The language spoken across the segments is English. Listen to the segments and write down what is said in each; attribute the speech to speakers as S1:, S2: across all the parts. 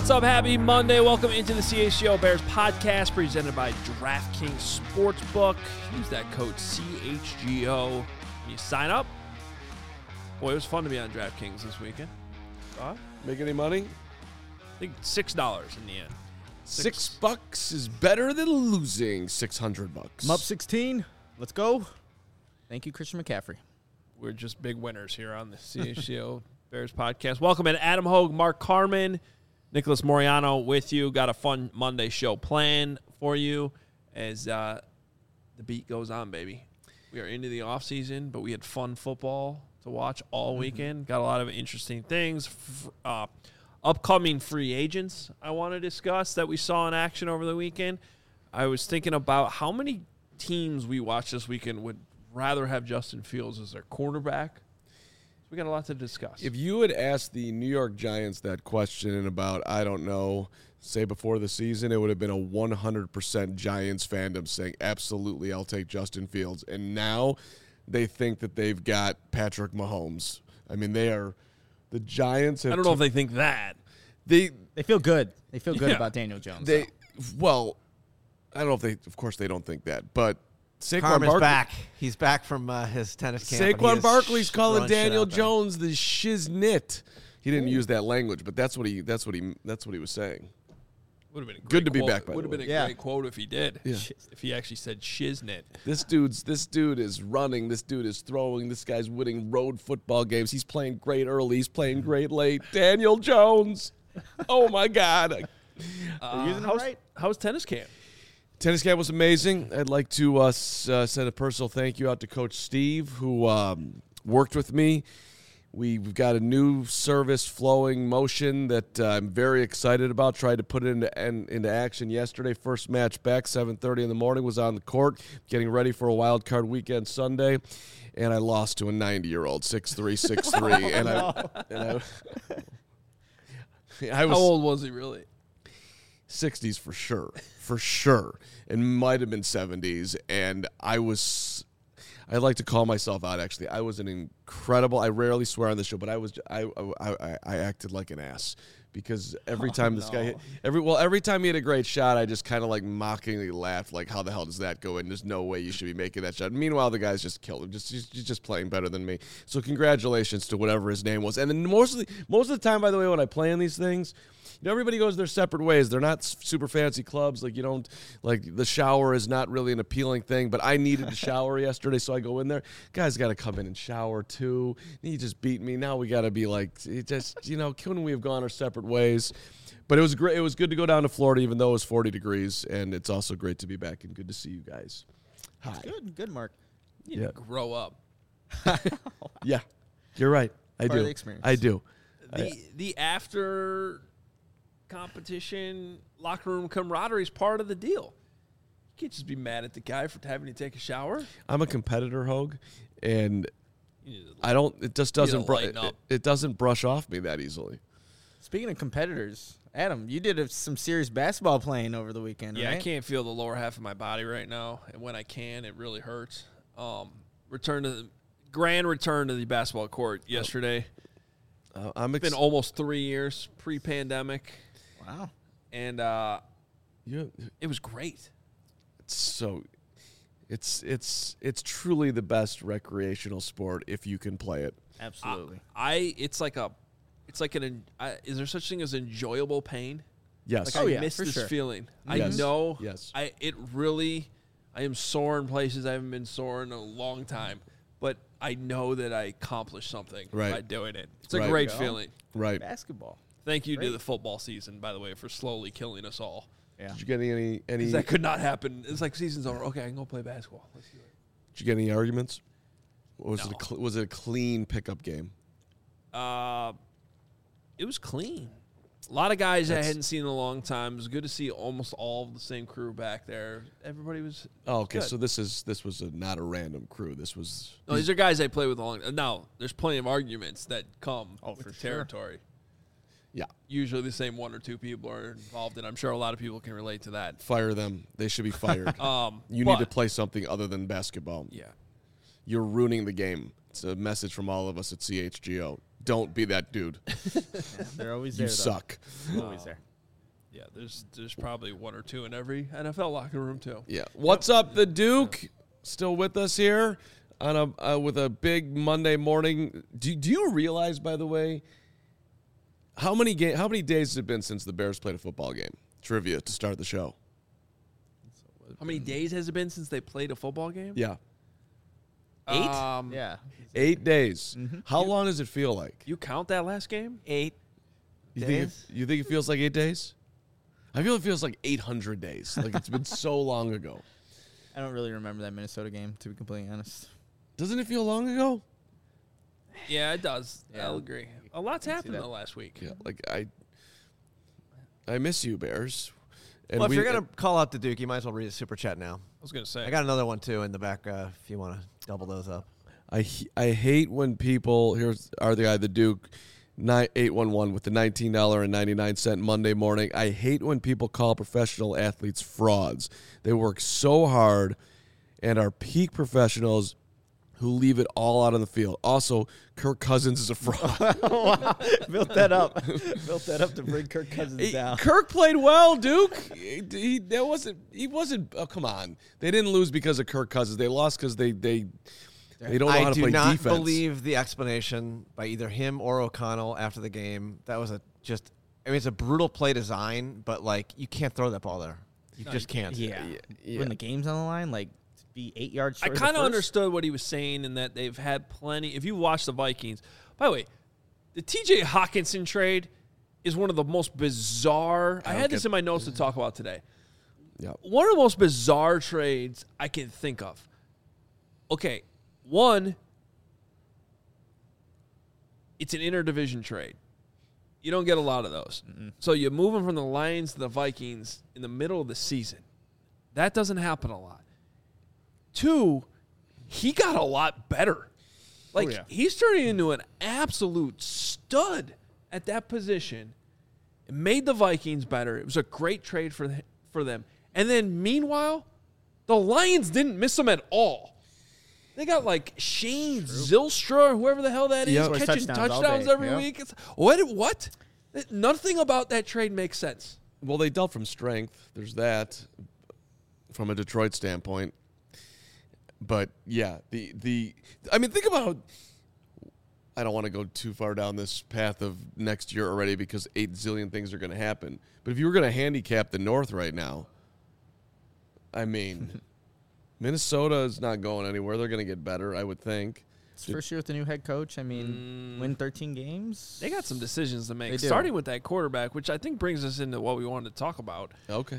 S1: What's up? Happy Monday. Welcome into the CHGO Bears podcast presented by DraftKings Sportsbook. Use that code CHGO when you sign up. Boy, it was fun to be on DraftKings this weekend.
S2: Make any money?
S1: I think $6 in the end.
S2: $6 is better than losing $600.
S3: I'm up 16. Let's go. Thank you, Christian McCaffrey.
S1: We're just big winners here on the CHGO Bears podcast. Welcome in Adam Hogue, Mark Carman, Nicholas Moriano with you. Got a fun Monday show planned for you as the beat goes on, baby. We are into the offseason, but we had fun football to watch all weekend. Got a lot of interesting things. Upcoming free agents I want to discuss that we saw in action over the weekend. I was thinking about how many teams we watched this weekend would rather have Justin Fields as their quarterback. We got a lot to discuss.
S2: If you had asked the New York Giants that question in about, I don't know, say before the season, it would have been a 100% Giants fandom saying, absolutely, I'll take Justin Fields. And now they think that they've got Patrick Mahomes. I mean, the Giants have...
S1: I don't know if they think that.
S3: They feel good. They feel good about Daniel Jones.
S2: Well, I don't know if they... Of course, they don't think that, but...
S4: Carmen's back. He's back from his tennis camp.
S2: Saquon Barkley's calling Daniel Jones the shiznit. He didn't use that language, but that's what he was saying.
S1: Would have been a great
S2: good to be
S1: quote.
S2: back.
S1: Would have been a great quote if he did.
S2: Yeah.
S1: If he actually said shiznit.
S2: This dude is running. This dude is throwing. This guy's winning road football games. He's playing great early. He's playing great late. Daniel Jones. Oh my God.
S3: Using it right?
S1: How's tennis camp?
S2: Tennis camp was amazing. I'd like to send a personal thank you out to Coach Steve, who worked with me. We've got a new service, Flowing Motion, that I'm very excited about. Tried to put it into action yesterday. First match back, 7:30 in the morning, was on the court, getting ready for a wild card weekend Sunday, and I lost to a 90-year-old, 6'3", 6'3", I was.
S1: How old was he really?
S2: 60s for sure, and might have been 70s, and I like to call myself out, actually. I was an incredible, I rarely swear on the show, but I acted like an ass, because every time this guy hit, every time he had a great shot, I just kind of like mockingly laughed, like, how the hell does that go in? There's no way you should be making that shot. Meanwhile, the guy's just killed him. He's just playing better than me. So congratulations to whatever his name was. And then most of the time, by the way, when I play in these things, everybody goes their separate ways. They're not super fancy clubs. Like, you don't, like, the shower is not really an appealing thing, but I needed to shower yesterday, so I go in there. Guys got to come in and shower too. He just beat me. Now we got to be like, couldn't we have gone our separate ways? But it was great. It was good to go down to Florida, even though it was 40 degrees, and it's also great to be back and good to see you guys. Hi.
S3: Good, Mark.
S1: You need to grow up.
S2: Yeah, you're right. I
S3: Part of
S2: do.
S3: the experience.
S2: I do.
S1: The after competition locker room camaraderie is part of the deal. You can't just be mad at the guy for having to take a shower.
S2: I'm a competitor, Hogue, and I don't. It just doesn't. It doesn't brush off me that easily.
S3: Speaking of competitors, Adam, you did some serious basketball playing over the weekend,
S1: Yeah,
S3: right?
S1: I can't feel the lower half of my body right now, and when I can, it really hurts. Grand return to the basketball court yesterday. It's been almost 3 years pre-pandemic.
S3: Wow.
S1: And it was great.
S2: It's truly the best recreational sport if you can play it.
S3: Absolutely.
S1: Is there such thing as enjoyable pain?
S2: Yes.
S1: Like I miss this feeling.
S2: Yes.
S1: I know.
S2: Yes.
S1: I am sore in places I haven't been sore in a long time, but I know that I accomplished something by doing it. It's a great feeling.
S2: Right.
S3: Basketball.
S1: Thank you to the football season, by the way, for slowly killing us all.
S3: Yeah.
S2: Did you get any?
S1: Because that could not happen. It's like season's over. Okay, I can go play basketball. Let's do it.
S2: Did you get any arguments? Or was it a clean pickup game?
S1: It was clean. A lot of guys I hadn't seen in a long time. It was good to see almost all of the same crew back there. Everybody was
S2: okay.
S1: good.
S2: So this was not a random crew. This was
S1: these are guys I play with a long. Now there's plenty of arguments that come with the
S3: sure.
S1: territory.
S2: Yeah.
S1: Usually the same one or two people are involved, and I'm sure a lot of people can relate to that.
S2: Fire them. They should be fired. You need to play something other than basketball.
S1: Yeah.
S2: You're ruining the game. It's a message from all of us at CHGO. Don't be that dude.
S3: They're always there.
S2: You suck.
S3: Always there.
S1: Yeah, there's probably one or two in every NFL locker room too.
S2: Yeah. What's up, the Duke? Still with us here on with a big Monday morning. Do you realize, by the way, how many days has it been since the Bears played a football game? Trivia to start the show.
S1: How many days has it been since they played a football game?
S2: Yeah.
S3: 8?
S1: Yeah.
S2: 8 days. How long does it feel like?
S1: You count that last game?
S4: 8
S2: You
S4: days.
S2: think it feels like 8 days? I feel it feels like 800 days. Like it's been so long ago.
S3: I don't really remember that Minnesota game, to be completely honest.
S2: Doesn't it feel long ago?
S1: Yeah, it does.
S3: Yeah.
S1: I'll agree. A lot's happened in
S3: that.
S1: the last week.
S2: Yeah. Like I miss you, Bears. And
S4: Well, if you're gonna call out the Duke, you might as well read a super chat now.
S1: I was gonna say.
S4: I got another one too in the back. If you want to double those up.
S2: I hate when people the Duke 811 with the $19.99 Monday morning. I hate when people call professional athletes frauds. They work so hard and are peak professionals who leave it all out on the field. Also, Kirk Cousins is a fraud.
S3: Built that up. Built that up to bring Kirk Cousins down.
S2: Kirk played well, Duke. He wasn't. Oh, come on. They didn't lose because of Kirk Cousins. They lost because they don't know how to play defense.
S4: I do not believe the explanation by either him or O'Connell after the game. That was it's a brutal play design, but like you can't throw that ball there. You just can't.
S3: Yeah.
S2: Yeah.
S3: When the game's on the line, like to be 8 yards
S1: I
S3: short.
S1: kind of understood what he was saying in that they've had plenty. If you watch the Vikings, by the way, the T.J. Hawkinson trade is one of the most bizarre. I had this in my notes to talk about today.
S2: Yeah.
S1: One of the most bizarre trades I can think of. Okay, one, it's an interdivision trade. You don't get a lot of those. So you move him from the Lions to the Vikings in the middle of the season. That doesn't happen a lot. 2, he got a lot better. Like, he's turning into an absolute stud at that position. It made the Vikings better. It was a great trade for them. And then, meanwhile, the Lions didn't miss him at all. They got like Shane Zylstra, whoever the hell that is,
S2: Yep.
S1: catching
S3: Touchdowns all
S1: touchdowns
S3: day.
S1: every
S3: Yep.
S1: week. It's, what? Nothing about that trade makes sense.
S2: Well, they dealt from strength. There's that from a Detroit standpoint. But yeah, I mean, think about. I don't want to go too far down this path of next year already because 8 zillion things are going to happen. But if you were going to handicap the North right now, I mean, Minnesota is not going anywhere. They're going to get better, I would think.
S3: It's first year with the new head coach. I mean, win 13 games.
S1: They got some decisions to make,
S3: They do.
S1: starting with that quarterback, which I think brings us into what we wanted to talk about.
S2: Okay.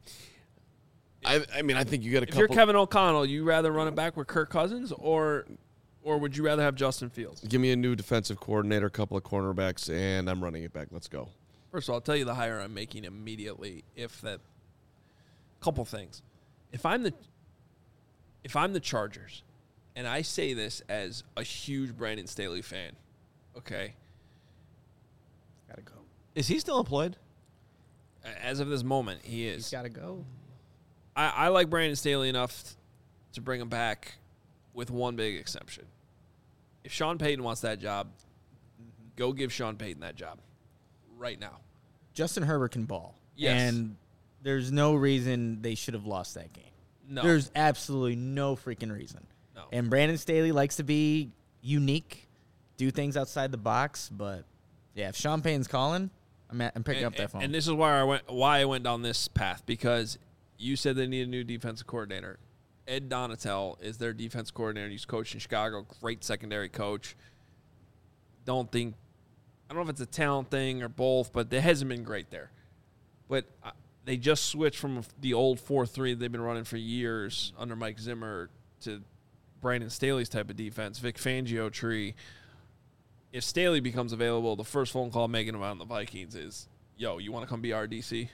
S2: I mean, I think you got a
S1: If
S2: couple.
S1: you're Kevin O'Connell, you rather run it back with Kirk Cousins or would you rather have Justin Fields?
S2: Give me a new defensive coordinator, a couple of cornerbacks, and I'm running it back. Let's go.
S1: First of all, I'll tell you the hire I'm making immediately. Couple things. If I'm the Chargers, and I say this as a huge Brandon Staley fan, okay?
S3: Gotta go.
S4: Is he still employed?
S1: As of this moment, he
S3: He's
S1: is.
S3: gotta go.
S1: I like Brandon Staley enough to bring him back with one big exception. If Sean Payton wants that job, go give Sean Payton that job right now.
S3: Justin Herbert can ball.
S1: Yes.
S3: And there's no reason they should have lost that game.
S1: No.
S3: There's absolutely no freaking reason.
S1: No.
S3: And Brandon Staley likes to be unique, do things outside the box. But, yeah, if Sean Payton's calling, I'm picking up that phone.
S1: And this is why I went down this path, because you said they need a new defensive coordinator. Ed Donatel is their defense coordinator. He's coached in Chicago. Great secondary coach. I don't know if it's a talent thing or both, but it hasn't been great there. But they just switched from the old 4-3 they've been running for years under Mike Zimmer to Brandon Staley's type of defense, Vic Fangio tree. If Staley becomes available, the first phone call making him on the Vikings is, yo, you want to come be our DC?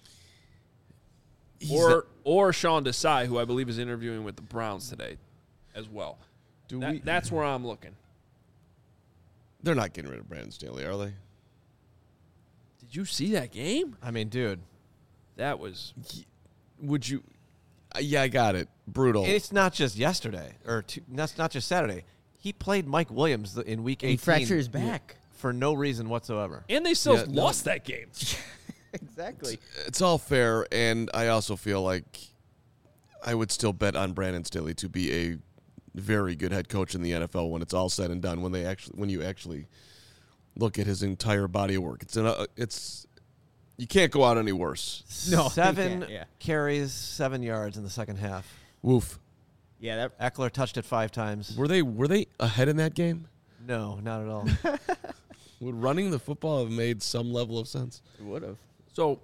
S1: Or Sean Desai, who I believe is interviewing with the Browns today as well. That's where I'm looking.
S2: They're not getting rid of Brandon Staley, are they?
S1: Did you see that game?
S4: I mean, dude.
S1: That was...
S2: Would you? Yeah, I got it. Brutal.
S4: It's not just yesterday, that's not just Saturday. He played Mike Williams in Week 18.
S3: he fractured his back.
S4: For no reason whatsoever.
S1: And they still lost that game.
S3: Exactly.
S2: It's all fair, and I also feel like I would still bet on Brandon Staley to be a very good head coach in the NFL when it's all said and done. When you actually look at his entire body of work, it's you can't go out any worse.
S3: No, you
S4: 7
S3: can't, yeah.
S4: carries, 7 yards in the second half.
S2: Woof.
S3: Yeah,
S4: Eckler touched it 5 times.
S2: Were they ahead in that game?
S4: No, not at all.
S2: Would running the football have made some level of sense?
S3: it would have.
S1: So,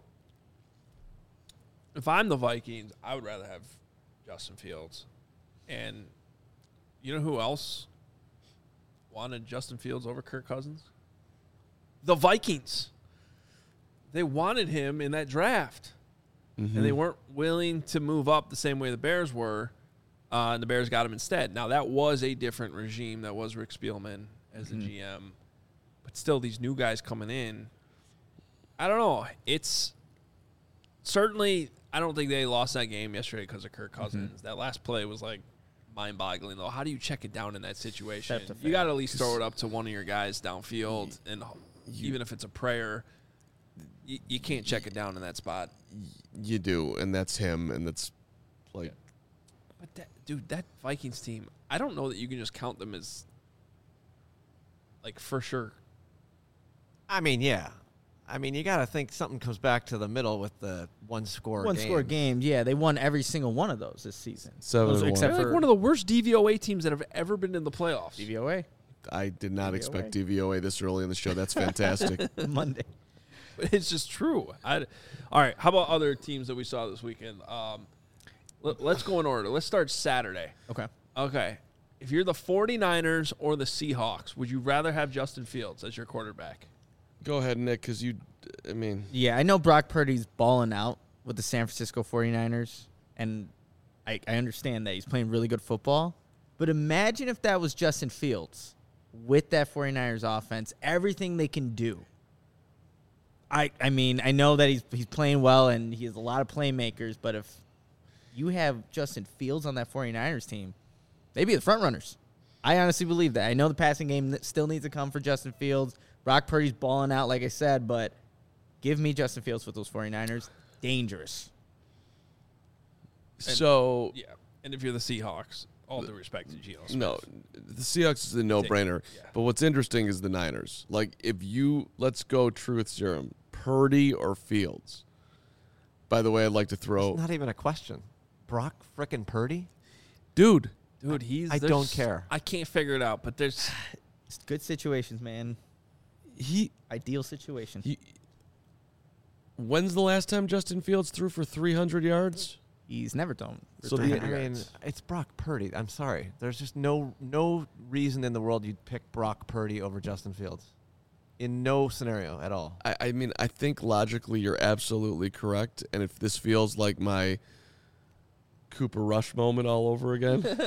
S1: if I'm the Vikings, I would rather have Justin Fields. And you know who else wanted Justin Fields over Kirk Cousins? The Vikings. They wanted him in that draft. And they weren't willing to move up the same way the Bears were. And the Bears got him instead. Now, that was a different regime. That was Rick Spielman as the GM. But still, these new guys coming in, I don't know. It's certainly, I don't think they lost that game yesterday because of Kirk Cousins. That last play was like mind-boggling, though. How do you check it down in that situation? You got to at least throw it up to one of your guys downfield, and even if it's a prayer, you can't check it down in that spot.
S2: You do, and that's him, and that's like.
S1: But that Vikings team, I don't know that you can just count them as like for sure.
S4: I mean, yeah. I mean, you got to think something comes back to the middle with the one-score
S3: games. Yeah, they won every single one of those this season.
S2: 7-1.
S3: Except
S1: They're
S3: for
S1: like one of the worst DVOA teams that have ever been in the playoffs.
S3: DVOA
S2: I did not expect DVOA this early in the show. That's fantastic.
S3: Monday.
S1: It's just true. All right, how about other teams that we saw this weekend? Let's go in order. Let's start Saturday. Okay. If you're the 49ers or the Seahawks, would you rather have Justin Fields as your quarterback?
S2: Go ahead, Nick, because
S3: Yeah, I know Brock Purdy's balling out with the San Francisco 49ers, and I understand that he's playing really good football. But imagine if that was Justin Fields with that 49ers offense, everything they can do. I mean, I know that he's playing well and he has a lot of playmakers, but if you have Justin Fields on that 49ers team, they'd be the front runners. I honestly believe that. I know the passing game still needs to come for Justin Fields. Brock Purdy's balling out, like I said, but give me Justin Fields with those 49ers. Dangerous.
S2: So
S1: Yeah. And if you're the Seahawks, all due respect to Geno Smith.
S2: no, the Seahawks is a no-brainer.
S1: Yeah.
S2: But what's interesting is the Niners. Like, let's go truth serum, Purdy or Fields. By the way, I'd like to throw.
S4: It's not even a question. Brock frickin' Purdy?
S2: Dude,
S4: I don't care.
S1: I can't figure it out, but there's
S3: It's good situations, man. Ideal situations.
S2: When's the last time Justin Fields threw for 300 yards?
S3: He's never done.
S2: So
S4: I mean, it's Brock Purdy. I'm sorry. There's just no reason in the world you'd pick Brock Purdy over Justin Fields. In no scenario at all.
S2: I mean, I think logically you're absolutely correct. And if this feels like my Cooper Rush moment all over again.
S3: Oh,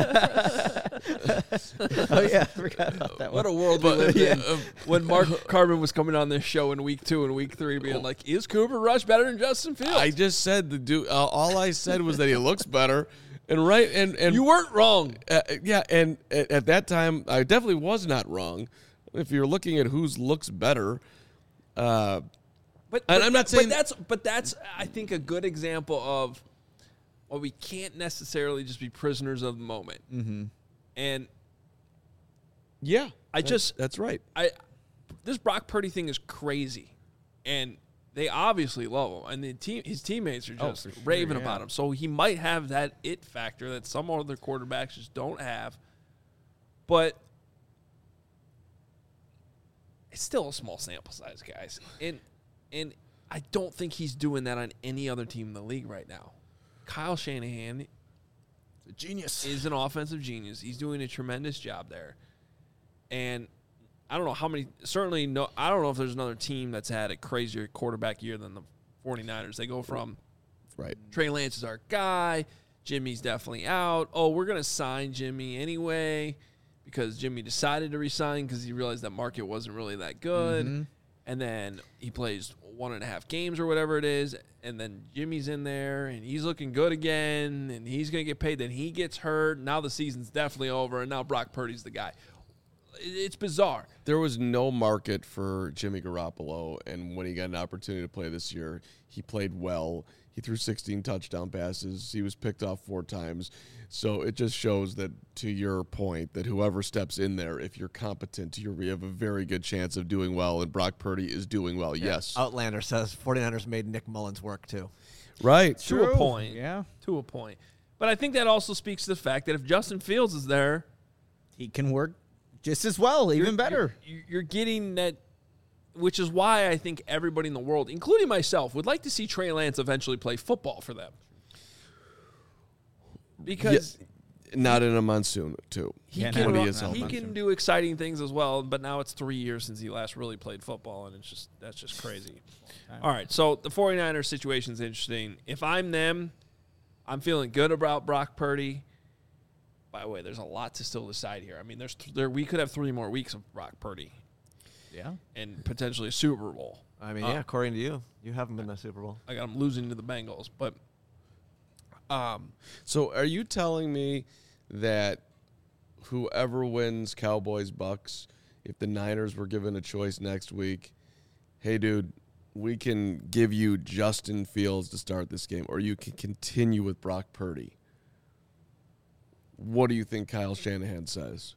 S3: yeah. I forgot about that
S1: what
S3: one.
S1: a world we lived in when Mark Carmen was coming on this show in week 2 and week 3 being like, is Cooper Rush better than Justin Fields?
S2: I just said the dude. All I said was that he looks better, and
S1: you weren't wrong.
S2: yeah, and at that time I definitely was not wrong. If you're looking at whose looks better,
S1: But
S2: I'm not saying
S1: but that's I think a good example of we can't necessarily just be prisoners of the moment. Mm-hmm. And
S2: yeah,
S1: that's
S2: right.
S1: This Brock Purdy thing is crazy, and they obviously love him, and his teammates are just raving about him. So he might have that it factor that some other quarterbacks just don't have, but it's still a small sample size, guys. And I don't think he's doing that on any other team in the league right now. Kyle Shanahan,
S3: A genius.
S1: is an offensive genius. He's doing a tremendous job there. And I don't know how many – certainly no – I don't know if there's another team that's had a crazier quarterback year than the 49ers. They go from Trey Lance is our guy. Jimmy's definitely out. Oh, we're going to sign Jimmy anyway because Jimmy decided to resign because he realized that market wasn't really that good. Mm-hmm. And then he plays 1.5 games or whatever it is, and then Jimmy's in there, and he's looking good again, and he's going to get paid. Then he gets hurt. Now the season's definitely over, and now Brock Purdy's the guy. It's bizarre.
S2: There was no market for Jimmy Garoppolo, and when he got an opportunity to play this year, he played well. He threw 16 touchdown passes. He was picked off 4 times. So it just shows that, to your point, that whoever steps in there, if you're competent, you have a very good chance of doing well, and Brock Purdy is doing well, yes.
S4: Outlander says 49ers made Nick Mullins work, too.
S2: Right.
S1: To a point.
S3: Yeah.
S1: To a point. But I think that also speaks to the fact that if Justin Fields is there,
S3: He can work just as well, even better.
S1: You're getting that, which is why I think everybody in the world, including myself, would like to see Trey Lance eventually play football for them. Because
S2: not in a monsoon, too.
S1: he
S3: Yeah,
S1: can,
S3: no,
S1: he can do exciting things as well, but now it's 3 years since he last really played football, and that's just crazy. All right, so the 49ers situation is interesting. If I'm them, I'm feeling good about Brock Purdy. By the way, there's a lot to still decide here. I mean, we could have 3 more weeks of Brock Purdy
S3: Yeah.
S1: and potentially a Super Bowl.
S4: I mean, yeah, according to you, you haven't been to the Super Bowl.
S1: I got him losing to the Bengals, but
S2: So are you telling me that whoever wins Cowboys-Bucks, if the Niners were given a choice next week, hey, dude, we can give you Justin Fields to start this game, or you can continue with Brock Purdy? What do you think Kyle Shanahan says?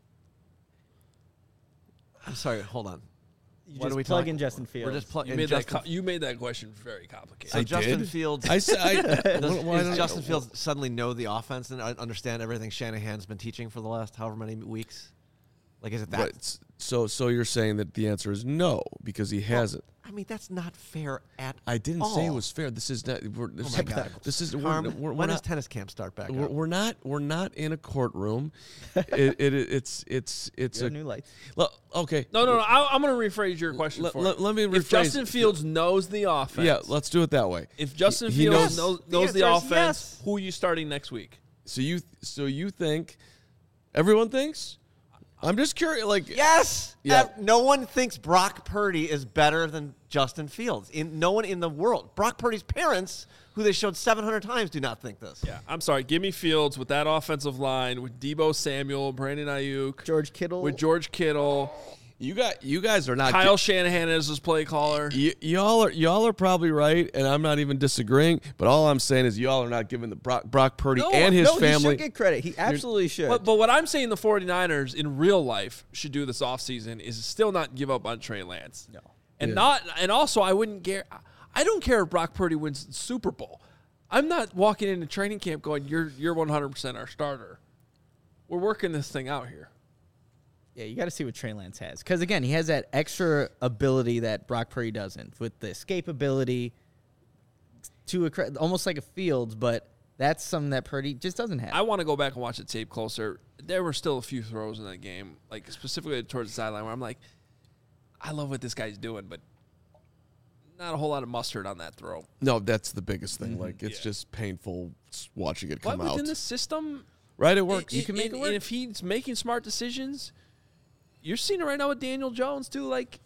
S4: I'm sorry, hold on.
S3: You
S4: What
S3: just
S4: are we
S3: plug
S4: talking-
S3: in Justin Fields.
S4: We're just plugging
S1: you made that question very complicated.
S4: So Justin
S2: did?
S4: Fields.
S2: I said,
S4: Does Justin Fields suddenly know the offense and understand everything Shanahan's been teaching for the last however many weeks? Like, is it that?
S2: Right. So you're saying that the answer is no because he hasn't.
S4: I mean, that's not fair at
S2: I didn't
S4: all.
S2: say it was fair. This is not.
S4: Oh my God.
S2: This is.
S4: Carm,
S2: We're
S4: when does
S2: not.
S4: tennis camp start back
S2: We're,
S4: up?
S2: we're not. We're not in a courtroom. It's
S3: You
S2: a
S3: have new lights.
S2: okay.
S1: No. I'm going to rephrase your question for you.
S2: Let me rephrase.
S1: If Justin Fields knows the offense,
S2: Yeah, let's do it that way.
S1: if Justin
S2: He
S1: Fields
S2: knows-
S1: knows
S4: The
S1: the
S4: answer is
S1: offense,
S4: yes.
S1: who are you starting next week?
S2: So you think everyone thinks? I'm just curious. Like
S4: Yes.
S2: Yeah.
S4: No one thinks Brock Purdy is better than Justin Fields. No one in the world. Brock Purdy's parents, who they showed 700 times, do not think this.
S1: Yeah, I'm sorry. Give me Fields with that offensive line with Debo Samuel, Brandon Ayuk,
S3: George Kittle.
S1: with George Kittle,
S2: you guys are not.
S1: Kyle Shanahan as his play caller.
S2: Y'all are probably right, and I'm not even disagreeing. But all I'm saying is y'all are not giving the Brock Purdy and his
S3: He
S2: family.
S3: should get credit. He absolutely should.
S1: But what I'm saying the 49ers in real life should do this offseason is still not give up on Trey Lance.
S3: No.
S1: And also I wouldn't care. I don't care if Brock Purdy wins the Super Bowl. I'm not walking into training camp going, you're 100% our starter. We're working this thing out here.
S3: Yeah, you got to see what Trey Lance has. Because, again, he has that extra ability that Brock Purdy doesn't with the escape ability to almost like a Fields, but that's something that Purdy just doesn't have.
S1: I want to go back and watch the tape closer. There were still a few throws in that game, like specifically towards the sideline, where I'm like, I love what this guy's doing, but not a whole lot of mustard on that throw.
S2: No, that's the biggest thing. Like it's
S1: Yeah.
S2: just painful watching it
S1: But
S2: come out.
S1: within the system,
S2: Right, it works.
S3: You can make it work.
S1: And if he's making smart decisions, you're seeing it right now with Daniel Jones, too. Like,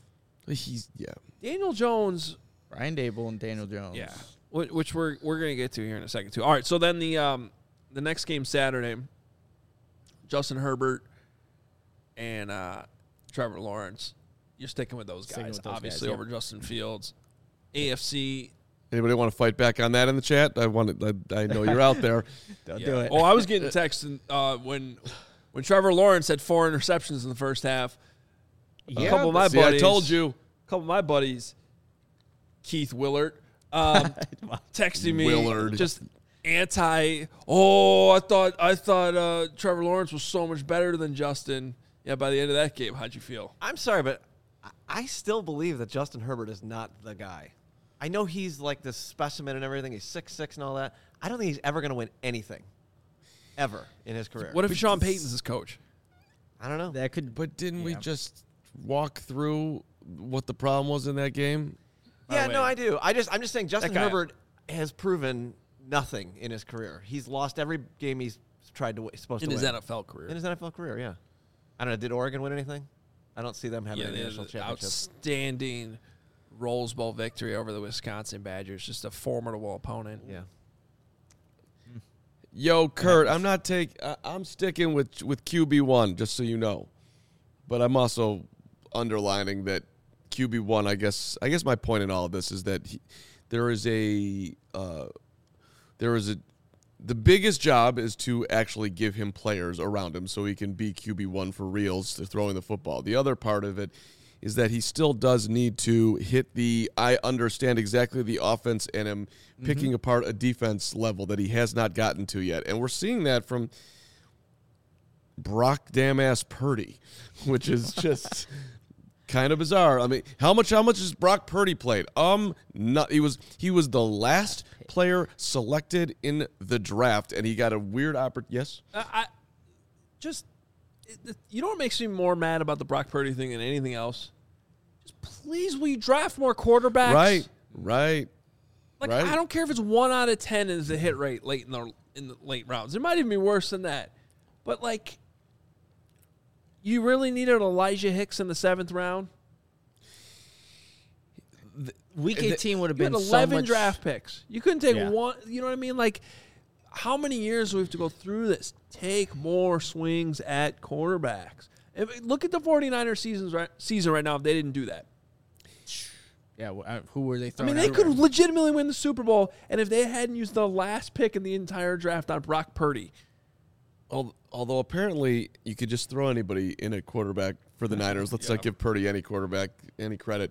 S1: Daniel Jones,
S3: Brian Dable and Daniel Jones.
S1: yeah, which we're going to get to here in a second, too. All right, so then the next game Saturday, Justin Herbert and Trevor Lawrence. You're sticking with those
S3: Sticking
S1: guys,
S3: with those
S1: obviously,
S3: guys,
S1: over Justin Fields. AFC.
S2: Anybody want to fight back on that in the chat? I know you're out there.
S3: Don't
S1: Yeah.
S3: do it.
S1: Oh, I was getting texts when Trevor Lawrence had 4 interceptions in the first half.
S3: Yeah,
S1: A couple of my
S2: See,
S1: buddies.
S2: I told you.
S1: A couple of my buddies, Keith Willard, texting me
S2: Willard.
S1: just anti. Oh, I thought Trevor Lawrence was so much better than Justin. Yeah, by the end of that game, how'd you feel?
S4: I'm sorry, but I still believe that Justin Herbert is not the guy. I know he's like this specimen and everything. He's 6'6" and all that. I don't think he's ever going to win anything, ever in his career.
S1: What if Sean Payton's his coach?
S4: I don't know.
S3: That could.
S2: But didn't we
S3: Yeah.
S2: just walk through what the problem was in that game?
S4: Yeah,
S1: the
S4: no,
S1: way,
S4: I do. I'm just saying Justin
S1: guy-
S4: Herbert has proven nothing in his career. He's lost every game he's tried to supposed
S1: In
S4: to
S1: his
S4: win.
S1: NFL career.
S4: In his NFL career, yeah. I don't know. Did Oregon win anything? I don't see them having
S1: Yeah,
S4: any
S1: they had
S4: national
S1: an
S4: championship.
S1: outstanding Rose Bowl victory over the Wisconsin Badgers. Just a formidable opponent.
S4: Yeah.
S2: Yo, Kurt, I'm sticking with QB1, just so you know. but I'm also underlining that QB1. I guess my point in all of this is that the biggest job is to actually give him players around him so he can be QB1 for reals to throwing the football. The other part of it is that he still does need to hit I understand exactly the offense and am picking apart a defense level that he has not gotten to yet. And we're seeing that from Brock damn-ass Purdy, which is just kind of bizarre. I mean, how much has Brock Purdy played? He was the last player selected in the draft, and he got a weird opportunity. Yes?
S1: You know what makes me more mad about the Brock Purdy thing than anything else? Just please, will you draft more quarterbacks?
S2: Right.
S1: Like, I don't care if it's 1 out of 10 is the hit rate late in the late rounds. It might even be worse than that. But, like, you really needed Elijah Hicks in the 7th round?
S3: Week 18 would have
S1: You
S3: been
S1: had
S3: so
S1: 11
S3: much
S1: draft picks. You couldn't take
S3: Yeah.
S1: one. You know what I mean? Like, how many years do we have to go through this? Take more swings at quarterbacks. Look at the 49ers season right now if they didn't do that.
S3: Yeah, who were they
S1: I
S3: throwing
S1: mean, they
S3: out
S1: could
S3: there?
S1: legitimately win the Super Bowl, and if they hadn't used the last pick in the entire draft on Brock Purdy.
S2: Although apparently you could just throw anybody in a quarterback for the Niners. Let's not give Purdy any quarterback any credit.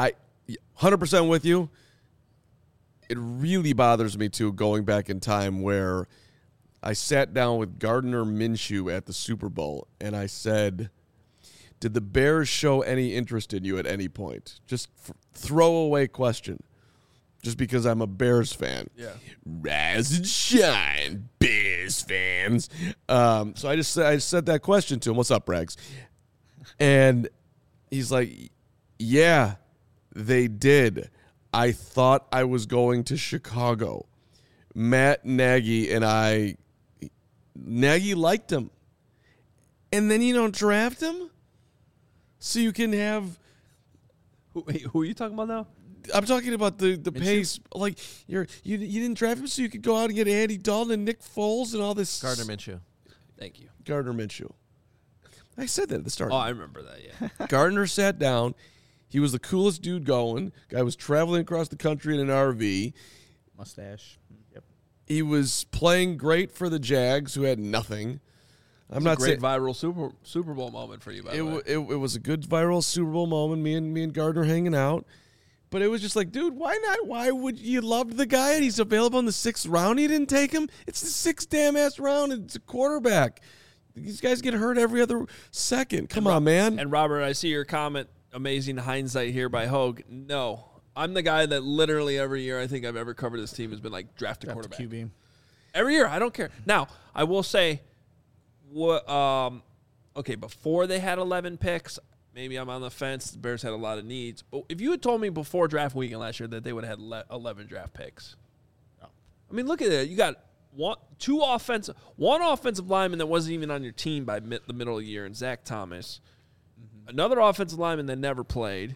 S2: 100% with you. It really bothers me, too, going back in time where I sat down with Gardner Minshew at the Super Bowl, and I said, did the Bears show any interest in you at any point? Just throwaway question. Just because I'm a Bears fan.
S1: Yeah.
S2: Rise and shine, Bears fans. So I said that question to him. What's up, Rags? And he's like, yeah, they did. I thought I was going to Chicago. Matt Nagy and Nagy liked him. And then you don't draft him? So you can have...
S1: Who are you talking about now?
S2: I'm talking about the pace. Like, you didn't draft him so you could go out and get Andy Dalton and Nick Foles and all this...
S4: Gardner Minshew.
S1: Thank you.
S2: Gardner Minshew. I said that at the start.
S1: Oh, I remember that, yeah.
S2: Gardner sat down. He was the coolest dude going. Guy was traveling across the country in an RV.
S3: Mustache. Yep.
S2: He was playing great for the Jags, who had nothing. I'm not
S1: Great
S2: saying
S1: viral Super Bowl moment for you, by the way.
S2: it was a good viral Super Bowl moment. Me and Gardner hanging out, but it was just like, dude, why not? Why would you love the guy and he's available in the 6th round? You didn't take him. It's the 6th damn ass round. It's a quarterback. These guys get hurt every other second. Come on, man.
S1: And Robert, I see your comment. Amazing hindsight here by Hogue. No, I'm the guy that literally every year I think I've ever covered this team has been like draft a quarterback.
S3: QB.
S1: Every year, I don't care. Now, I will say, okay, before they had 11 picks, maybe I'm on the fence. The Bears had a lot of needs. But if you had told me before draft weekend last year that they would have had 11 draft picks, I mean, look at it. You got one offensive lineman that wasn't even on your team by the middle of the year, and Zach Thomas. Another offensive lineman that never played.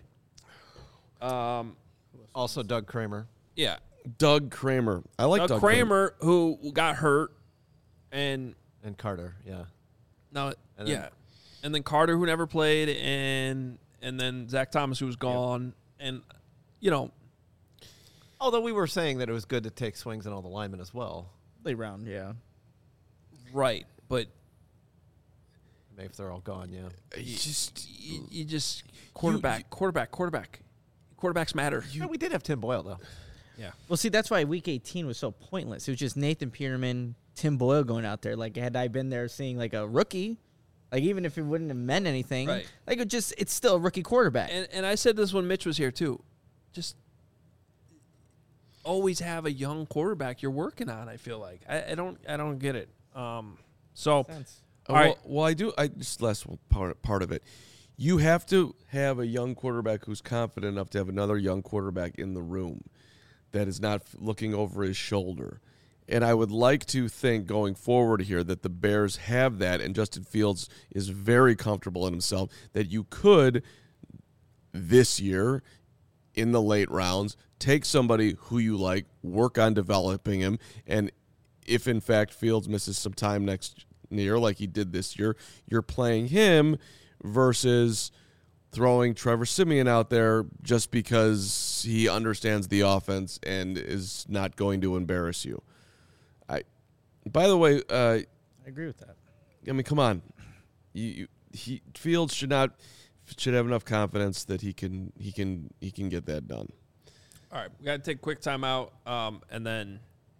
S4: Also Doug Kramer.
S1: Yeah.
S2: Doug Kramer. I like Doug
S1: Kramer, who got hurt, and
S4: Carter, yeah.
S1: no,
S4: And
S1: yeah, and then Carter, who never played, and then Zach Thomas, who was gone, and
S4: Although we were saying that it was good to take swings on all the linemen as well.
S3: Late round, yeah.
S1: right, but
S4: Maybe if they're all gone, yeah.
S1: you just quarterback. Quarterbacks matter.
S4: Yeah, we did have Tim Boyle, though.
S1: Yeah.
S3: Well, see, that's why Week 18 was so pointless. It was just Nathan Peterman, Tim Boyle going out there. Like, had I been there seeing, like, a rookie, like, even if it wouldn't have meant anything,
S1: Right.
S3: like, it's still a rookie quarterback.
S1: And I said this when Mitch was here too. Just always have a young quarterback you're working on. I feel like I don't get it. So all right.
S2: Well, I do. I just last part of it. You have to have a young quarterback who's confident enough to have another young quarterback in the room that is not looking over his shoulder. And I would like to think going forward here that the Bears have that, and Justin Fields is very comfortable in himself, that you could this year in the late rounds take somebody who you like, work on developing him, and if in fact Fields misses some time next year like he did this year, you're playing him versus throwing Trevor Siemian out there just because he understands the offense and is not going to embarrass you. By the way,
S3: I agree with that.
S2: I mean, come on, Fields should have enough confidence that he can get that done.
S1: All right, we got to take a quick timeout, and then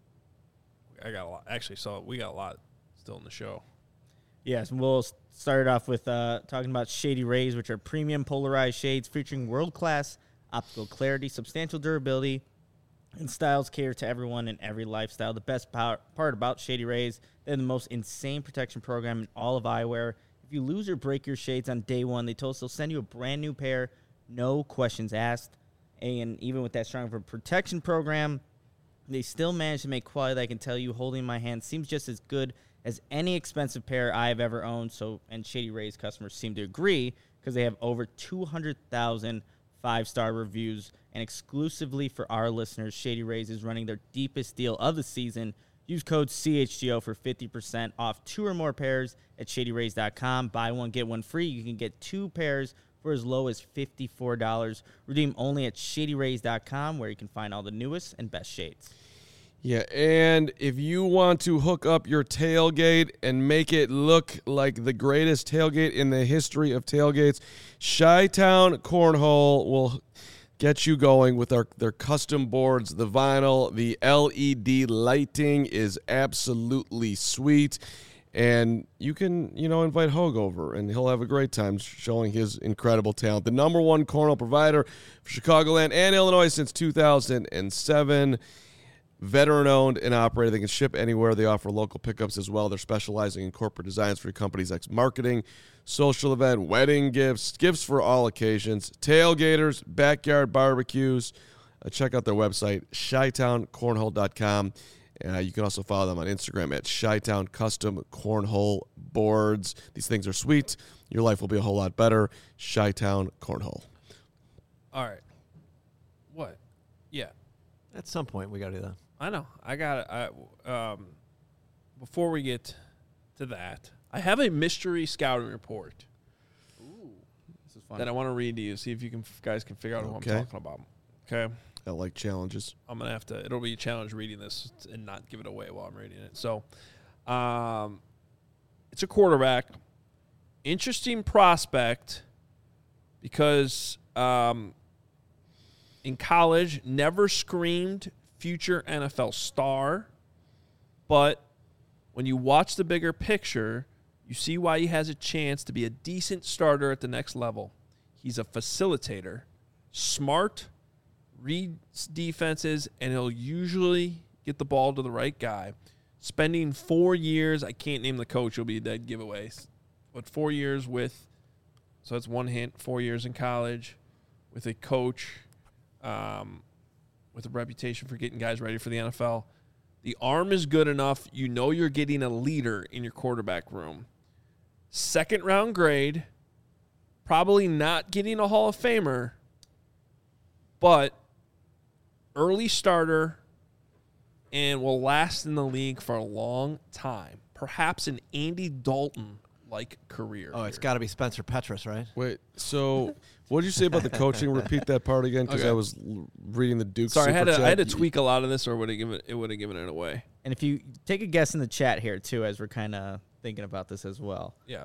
S1: I got a lot. Actually, so we got a lot still in the show.
S3: Yes, we'll start off with talking about Shady Rays, which are premium polarized shades featuring world-class optical clarity, substantial durability, and styles cater to everyone in every lifestyle. The best part about Shady Rays, they're the most insane protection program in all of eyewear. If you lose or break your shades on day one, they told us they'll send you a brand new pair, no questions asked. And even with that strong of a protection program, they still manage to make quality that I can tell you, holding my hand seems just as good as any expensive pair I have ever owned. And Shady Rays customers seem to agree because they have over 200,000 5-star reviews. And exclusively for our listeners, Shady Rays is running their deepest deal of the season. Use code CHGO for 50% off 2 or more pairs at shadyrays.com. Buy one, get one free. You can get 2 pairs for as low as $54. Redeem only at shadyrays.com, where you can find all the newest and best shades.
S2: Yeah, and if you want to hook up your tailgate and make it look like the greatest tailgate in the history of tailgates, Chi-Town Cornhole will get you going with their custom boards. The vinyl, the LED lighting is absolutely sweet. And you can, invite Hogue over, and he'll have a great time showing his incredible talent. The number one cornhole provider for Chicagoland and Illinois since 2007. Veteran-owned and operated. They can ship anywhere. They offer local pickups as well. They're specializing in corporate designs for companies like marketing, social event, wedding gifts, gifts for all occasions, tailgaters, backyard barbecues. Check out their website, ChiTownCornhole.com. You can also follow them on Instagram at Chi-Town Custom Cornhole Boards. These things are sweet. Your life will be a whole lot better. Chi-Town Cornhole.
S1: All right. What? Yeah.
S4: At some point, we got to do that.
S1: I know. I got it. Before we get to that, I have a mystery scouting report.
S3: Ooh, this is fun.
S1: That I want to read to you. See if you guys can figure out who I'm talking about. Okay.
S2: I like challenges.
S1: I'm gonna have to. It'll be a challenge reading this and not give it away while I'm reading it. So, it's a quarterback. Interesting prospect because in college never screamed future NFL star, but when you watch the bigger picture, you see why he has a chance to be a decent starter at the next level. He's a facilitator, smart, reads defenses, and he'll usually get the ball to the right guy. Spending 4 years, I can't name the coach, it'll be a dead giveaway. But 4 years so that's one hint, 4 years in college with a coach with a reputation for getting guys ready for the NFL. The arm is good enough. You know you're getting a leader in your quarterback room. 2nd round grade, probably not getting a Hall of Famer, but early starter and will last in the league for a long time. Perhaps an Andy Dalton-like career.
S4: Oh, it's got to be Spencer Petras, right?
S2: Wait, so what did you say about the coaching? Repeat that part again, because
S1: Okay.
S2: I was reading the Duke.
S1: Sorry, I had
S2: Super
S1: to
S2: Chat.
S1: tweak a lot of this, or would have given it away.
S3: And if you take a guess in the chat here, too, as we're kind of thinking about this as well.
S1: Yeah.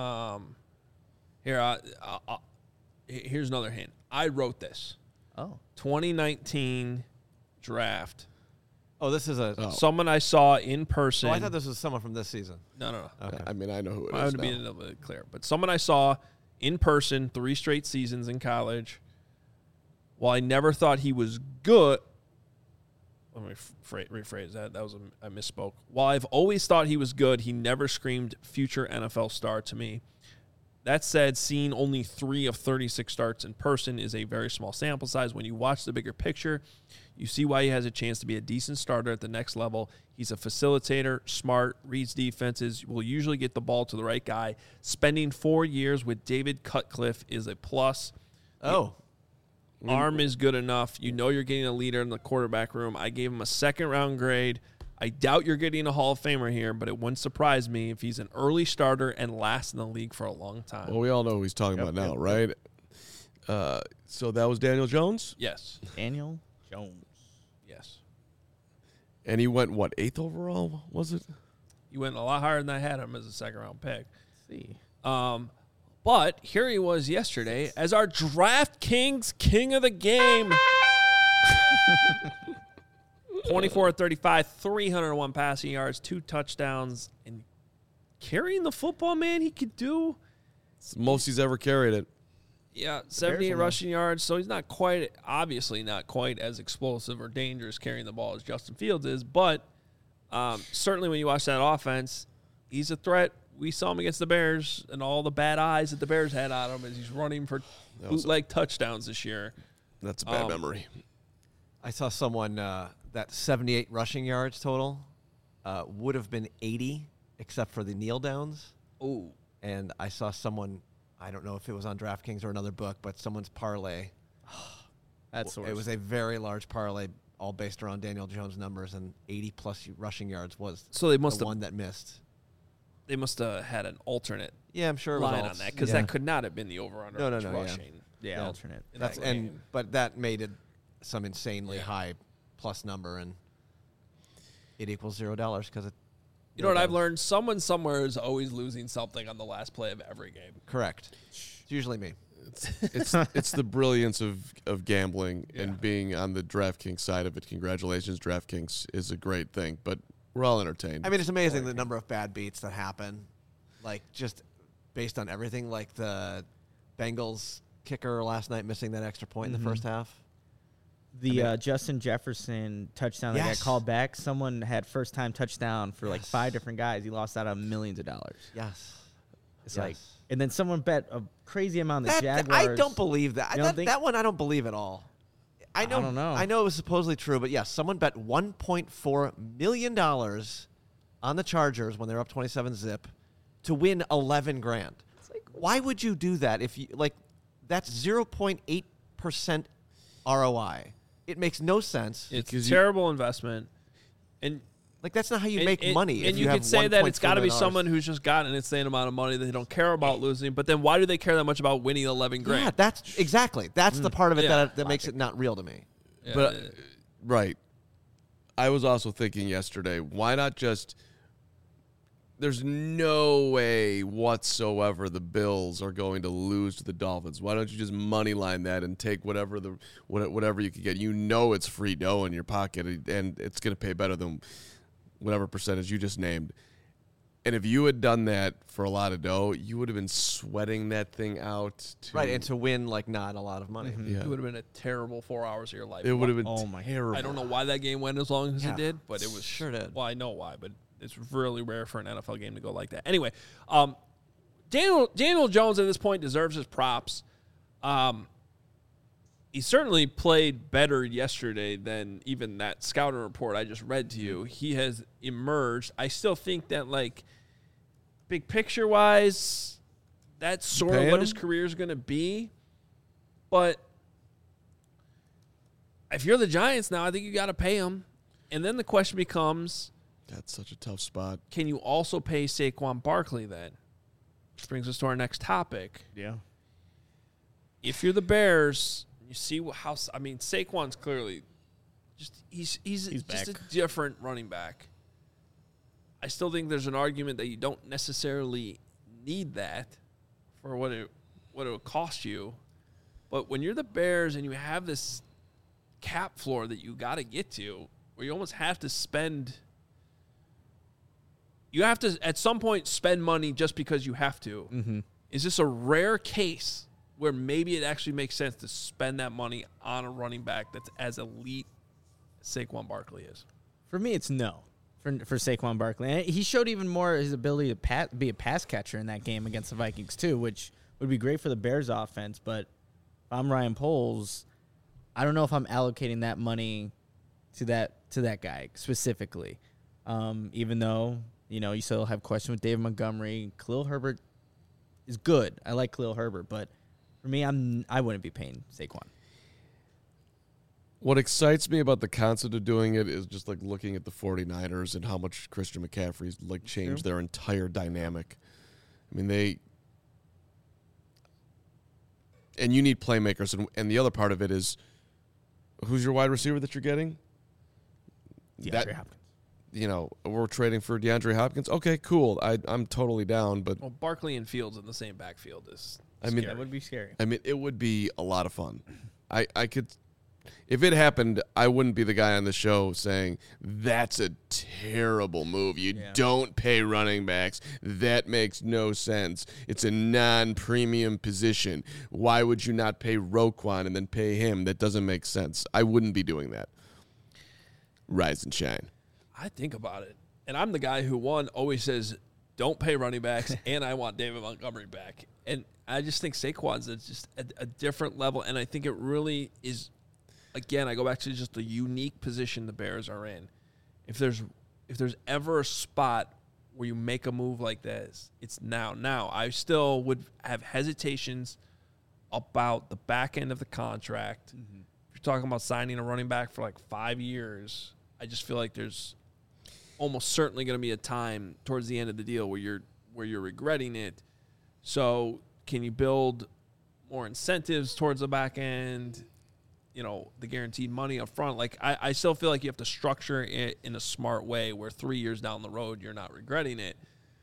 S1: Here's another hint. I wrote this.
S3: Oh.
S1: 2019 draft.
S4: Oh, this is a.
S1: Someone I saw in person.
S4: Oh, I thought this was someone from this season.
S1: No.
S4: Okay.
S2: I mean, I know who it
S1: I
S2: is
S1: would be a
S2: now.
S1: little bit clear. But someone I saw in person 3 straight seasons in college. While I never thought he was good. Let me rephrase that. I misspoke. While I've always thought he was good, he never screamed future NFL star to me. That said, seeing only 3 of 36 starts in person is a very small sample size. When you watch the bigger picture, you see why he has a chance to be a decent starter at the next level. He's a facilitator, smart, reads defenses, will usually get the ball to the right guy. Spending 4 years with David Cutcliffe is a plus.
S4: Oh.
S1: Arm is good enough. You know you're getting a leader in the quarterback room. I gave him a 2nd round grade. I doubt you're getting a Hall of Famer here, but it wouldn't surprise me if he's an early starter and lasts in the league for a long time.
S2: Well, we all know who he's talking about now, right? So that was Daniel Jones?
S1: Yes.
S3: Daniel Jones.
S1: Yes.
S2: And he went, what, 8th overall, was it?
S1: He went a lot higher than I had him as a second-round pick.
S3: Let's see.
S1: But here he was yesterday as our DraftKings king of the game. 24-35, 301 passing yards, 2 touchdowns, and carrying the football, man, he could do.
S2: It's the most he's ever carried it.
S1: Yeah, 78 rushing yards, so he's obviously not quite as explosive or dangerous carrying the ball as Justin Fields is, but certainly when you watch that offense, he's a threat. We saw him against the Bears and all the bad eyes that the Bears had on him as he's running for bootleg touchdowns this year.
S2: That's a bad memory.
S4: I saw someone that 78 rushing yards total would have been 80 except for the kneel downs.
S1: Oh.
S4: And I saw someone, I don't know if it was on DraftKings or another book, but someone's parlay.
S3: That's
S4: It was a very large parlay, all based around Daniel Jones numbers, and 80-plus rushing yards was
S1: So they must
S4: the
S1: have
S4: one that missed.
S1: They must have had an alternate
S4: Yeah, I'm sure it was
S1: line
S4: alts.
S1: on that because
S3: Yeah.
S1: that could not have been the over-under
S4: No,
S1: of
S4: yeah.
S1: rushing.
S3: Yeah,
S4: Yeah.
S3: alternate.
S1: in that game.
S4: But that made it some insanely high plus number, and it equals $0 because it.
S1: You know what I've learned? Someone somewhere is always losing something on the last play of every game.
S4: Correct. It's usually me.
S2: It's the brilliance of gambling and being on the DraftKings side of it. Congratulations, DraftKings is a great thing, but we're all entertained.
S4: I mean, it's amazing the number of bad beats that happen, like just based on everything. Like the Bengals kicker last night missing that extra point in the first half.
S3: The Justin Jefferson touchdown that got
S4: Yes.
S3: called back, someone had first-time touchdown for like 5 different guys. He lost out on millions of dollars.
S4: Yes.
S3: It's
S4: Yes.
S3: like, and then someone bet a crazy amount of the
S4: That,
S3: Jaguars.
S4: I don't believe that.
S3: You don't think-
S4: That one I don't believe at all. I
S3: don't know.
S4: I know it was supposedly true, but yes, someone bet $1.4 million on the Chargers when they're up 27-zip to win 11 grand. Why would you do that if you like? That's 0.8% ROI. It makes no sense.
S1: It's a
S2: Because you-
S1: terrible investment. And
S4: Like that's not how you make money.
S1: And
S4: if
S1: you
S4: have
S1: could say that it's got to be
S4: $1.4 million.
S1: someone who's just gotten an insane amount of money that they don't care about losing. But then why do they care that much about winning 11 grand?
S4: Yeah, that's exactly. That's the part of it
S1: Yeah.
S4: that makes it not real to me.
S1: Yeah,
S2: But right. I was also thinking yesterday, why not just there's no way whatsoever the Bills are going to lose to the Dolphins. Why don't you just money line that and take whatever you can get? You know it's free dough in your pocket and it's going to pay better than whatever percentage you just named. And if you had done that for a lot of dough, you would have been sweating that thing out.
S4: Right, and to win like not a lot of money.
S2: Yeah.
S1: it would have been a terrible 4 hours of your life.
S2: It would have been
S3: Oh my God.
S2: terrible.
S1: I don't know why that game went as long as
S4: Yeah.
S1: it did, but it was
S4: Sure did.
S1: Well, I know why, but it's really rare for an NFL game to go like that. Anyway, Daniel Jones at this point deserves his props. He certainly played better yesterday than even that scouting report I just read to you. He has emerged. I still think that, like, big picture wise, that's sort of
S2: paying
S1: what his
S2: him?
S1: career is going to be. But if you're the Giants now, I think you got to pay him. And then the question becomes,
S2: That's such a tough spot.
S1: can you also pay Saquon Barkley then? Which brings us to our next topic.
S3: Yeah.
S1: If you're the Bears, you see how Saquon's clearly he's just
S3: back.
S1: a different running back. I still think there's an argument that you don't necessarily need that for what it would cost you. But when you're the Bears and you have this cap floor that you got to get to, where you almost have to spend, you have to at some point spend money just because you have to.
S3: Mm-hmm.
S1: Is this a rare case where maybe it actually makes sense to spend that money on a running back that's as elite as Saquon Barkley is?
S3: For me, it's no. For Saquon Barkley, and he showed even more his ability to be a pass catcher in that game against the Vikings too, which would be great for the Bears offense. But if I'm Ryan Poles, I don't know if I'm allocating that money to that guy specifically. Even though you still have questions with David Montgomery, Khalil Herbert is good. I like Khalil Herbert, but for me, I wouldn't be paying Saquon.
S2: What excites me about the concept of doing it is just like looking at the 49ers and how much Christian McCaffrey's like changed their entire dynamic. I mean, and you need playmakers, and the other part of it is, who's your wide receiver that you're getting?
S3: DeAndre Hopkins.
S2: You know, we're trading for DeAndre Hopkins. Okay, cool. I'm totally down, but
S1: Well, Barkley and Fields in the same backfield is.
S2: I mean,
S3: That would be scary.
S2: I mean, it would be a lot of fun. I could, if it happened, I wouldn't be the guy on the show saying that's a terrible move. You don't pay running backs. That makes no sense. It's a non-premium position. Why would you not pay Roquan and then pay him? That doesn't make sense. I wouldn't be doing that. Rise and shine.
S1: I think about it, and I'm the guy who always says don't pay running backs, and I want David Montgomery back. And I just think Saquon's just a different level, and I think it really is. Again, I go back to just the unique position the Bears are in. If there's ever a spot where you make a move like this, it's now. Now, I still would have hesitations about the back end of the contract. Mm-hmm. If you're talking about signing a running back for like 5 years, I just feel like there's almost certainly going to be a time towards the end of the deal where you're regretting it. So can you build more incentives towards the back end? You know, the guaranteed money up front. Like I still feel like you have to structure it in a smart way where 3 years down the road you're not regretting it.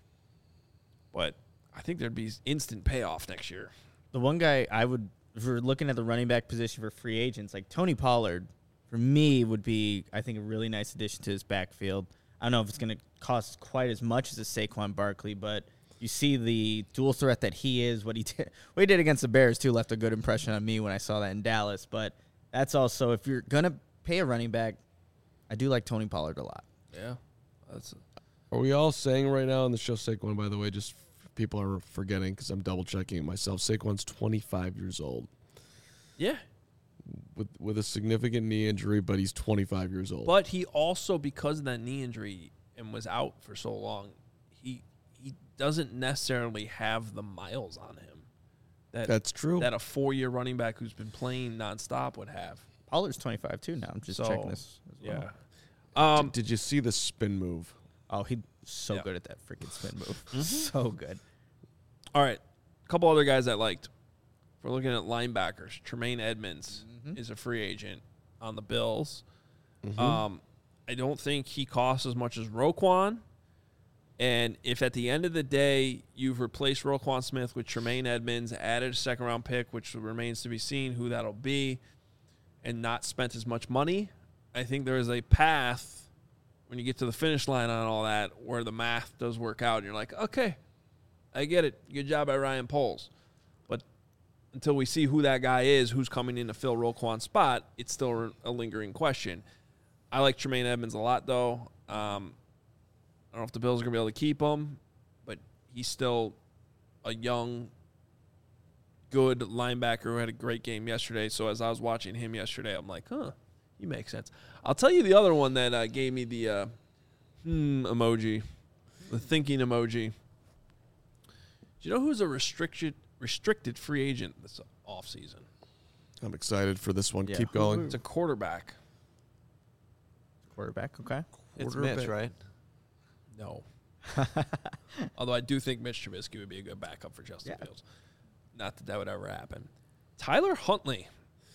S1: But I think there'd be instant payoff next year.
S3: The one guy I would, if we're looking at the running back position for free agents, like Tony Pollard, for me would be, I think, a really nice addition to his backfield. I don't know if it's going to cost quite as much as a Saquon Barkley, but you see the dual threat that he is. What he did against the Bears, too, left a good impression on me when I saw that in Dallas. But that's also, if you're going to pay a running back, I do like Tony Pollard a lot.
S1: Yeah.
S2: Are we all saying right now on the show, Saquon, by the way, just people are forgetting because I'm double-checking it myself, Saquon's 25 years old.
S1: Yeah.
S2: With a significant knee injury, but he's 25 years old.
S1: But he also, because of that knee injury and was out for so long, he doesn't necessarily have the miles on him.
S2: That's true.
S1: That a 4-year running back who's been playing nonstop would have.
S3: Pollard's 25 too now. I'm just checking this as well.
S1: Yeah.
S2: Did you see the spin move?
S3: Oh, he's so good at that freaking spin move. So good.
S1: All right. A couple other guys I liked. If we're looking at linebackers, Tremaine Edmonds is a free agent on the Bills. I don't think he costs as much as Roquan. And if at the end of the day you've replaced Roquan Smith with Tremaine Edmonds, added a second-round pick, which remains to be seen who that'll be, and not spent as much money, I think there is a path when you get to the finish line on all that where the math does work out. And you're like, okay, I get it. Good job by Ryan Poles. But until we see who that guy is, who's coming in to fill Roquan's spot, it's still a lingering question. I like Tremaine Edmonds a lot, though. I don't know if the Bills are going to be able to keep him, but he's still a young, good linebacker who had a great game yesterday. So as I was watching him yesterday, I'm like, he makes sense. I'll tell you the other one that gave me the emoji, the thinking emoji. Do you know who's a restricted free agent this offseason?
S2: I'm excited for this one.
S3: Yeah.
S2: Keep going.
S1: It's a quarterback.
S3: Quarterback, okay.
S4: It's Mitch, right?
S1: No. Although I do think Mitch Trubisky would be a good backup for Justin Fields. Not that would ever happen. Tyler Huntley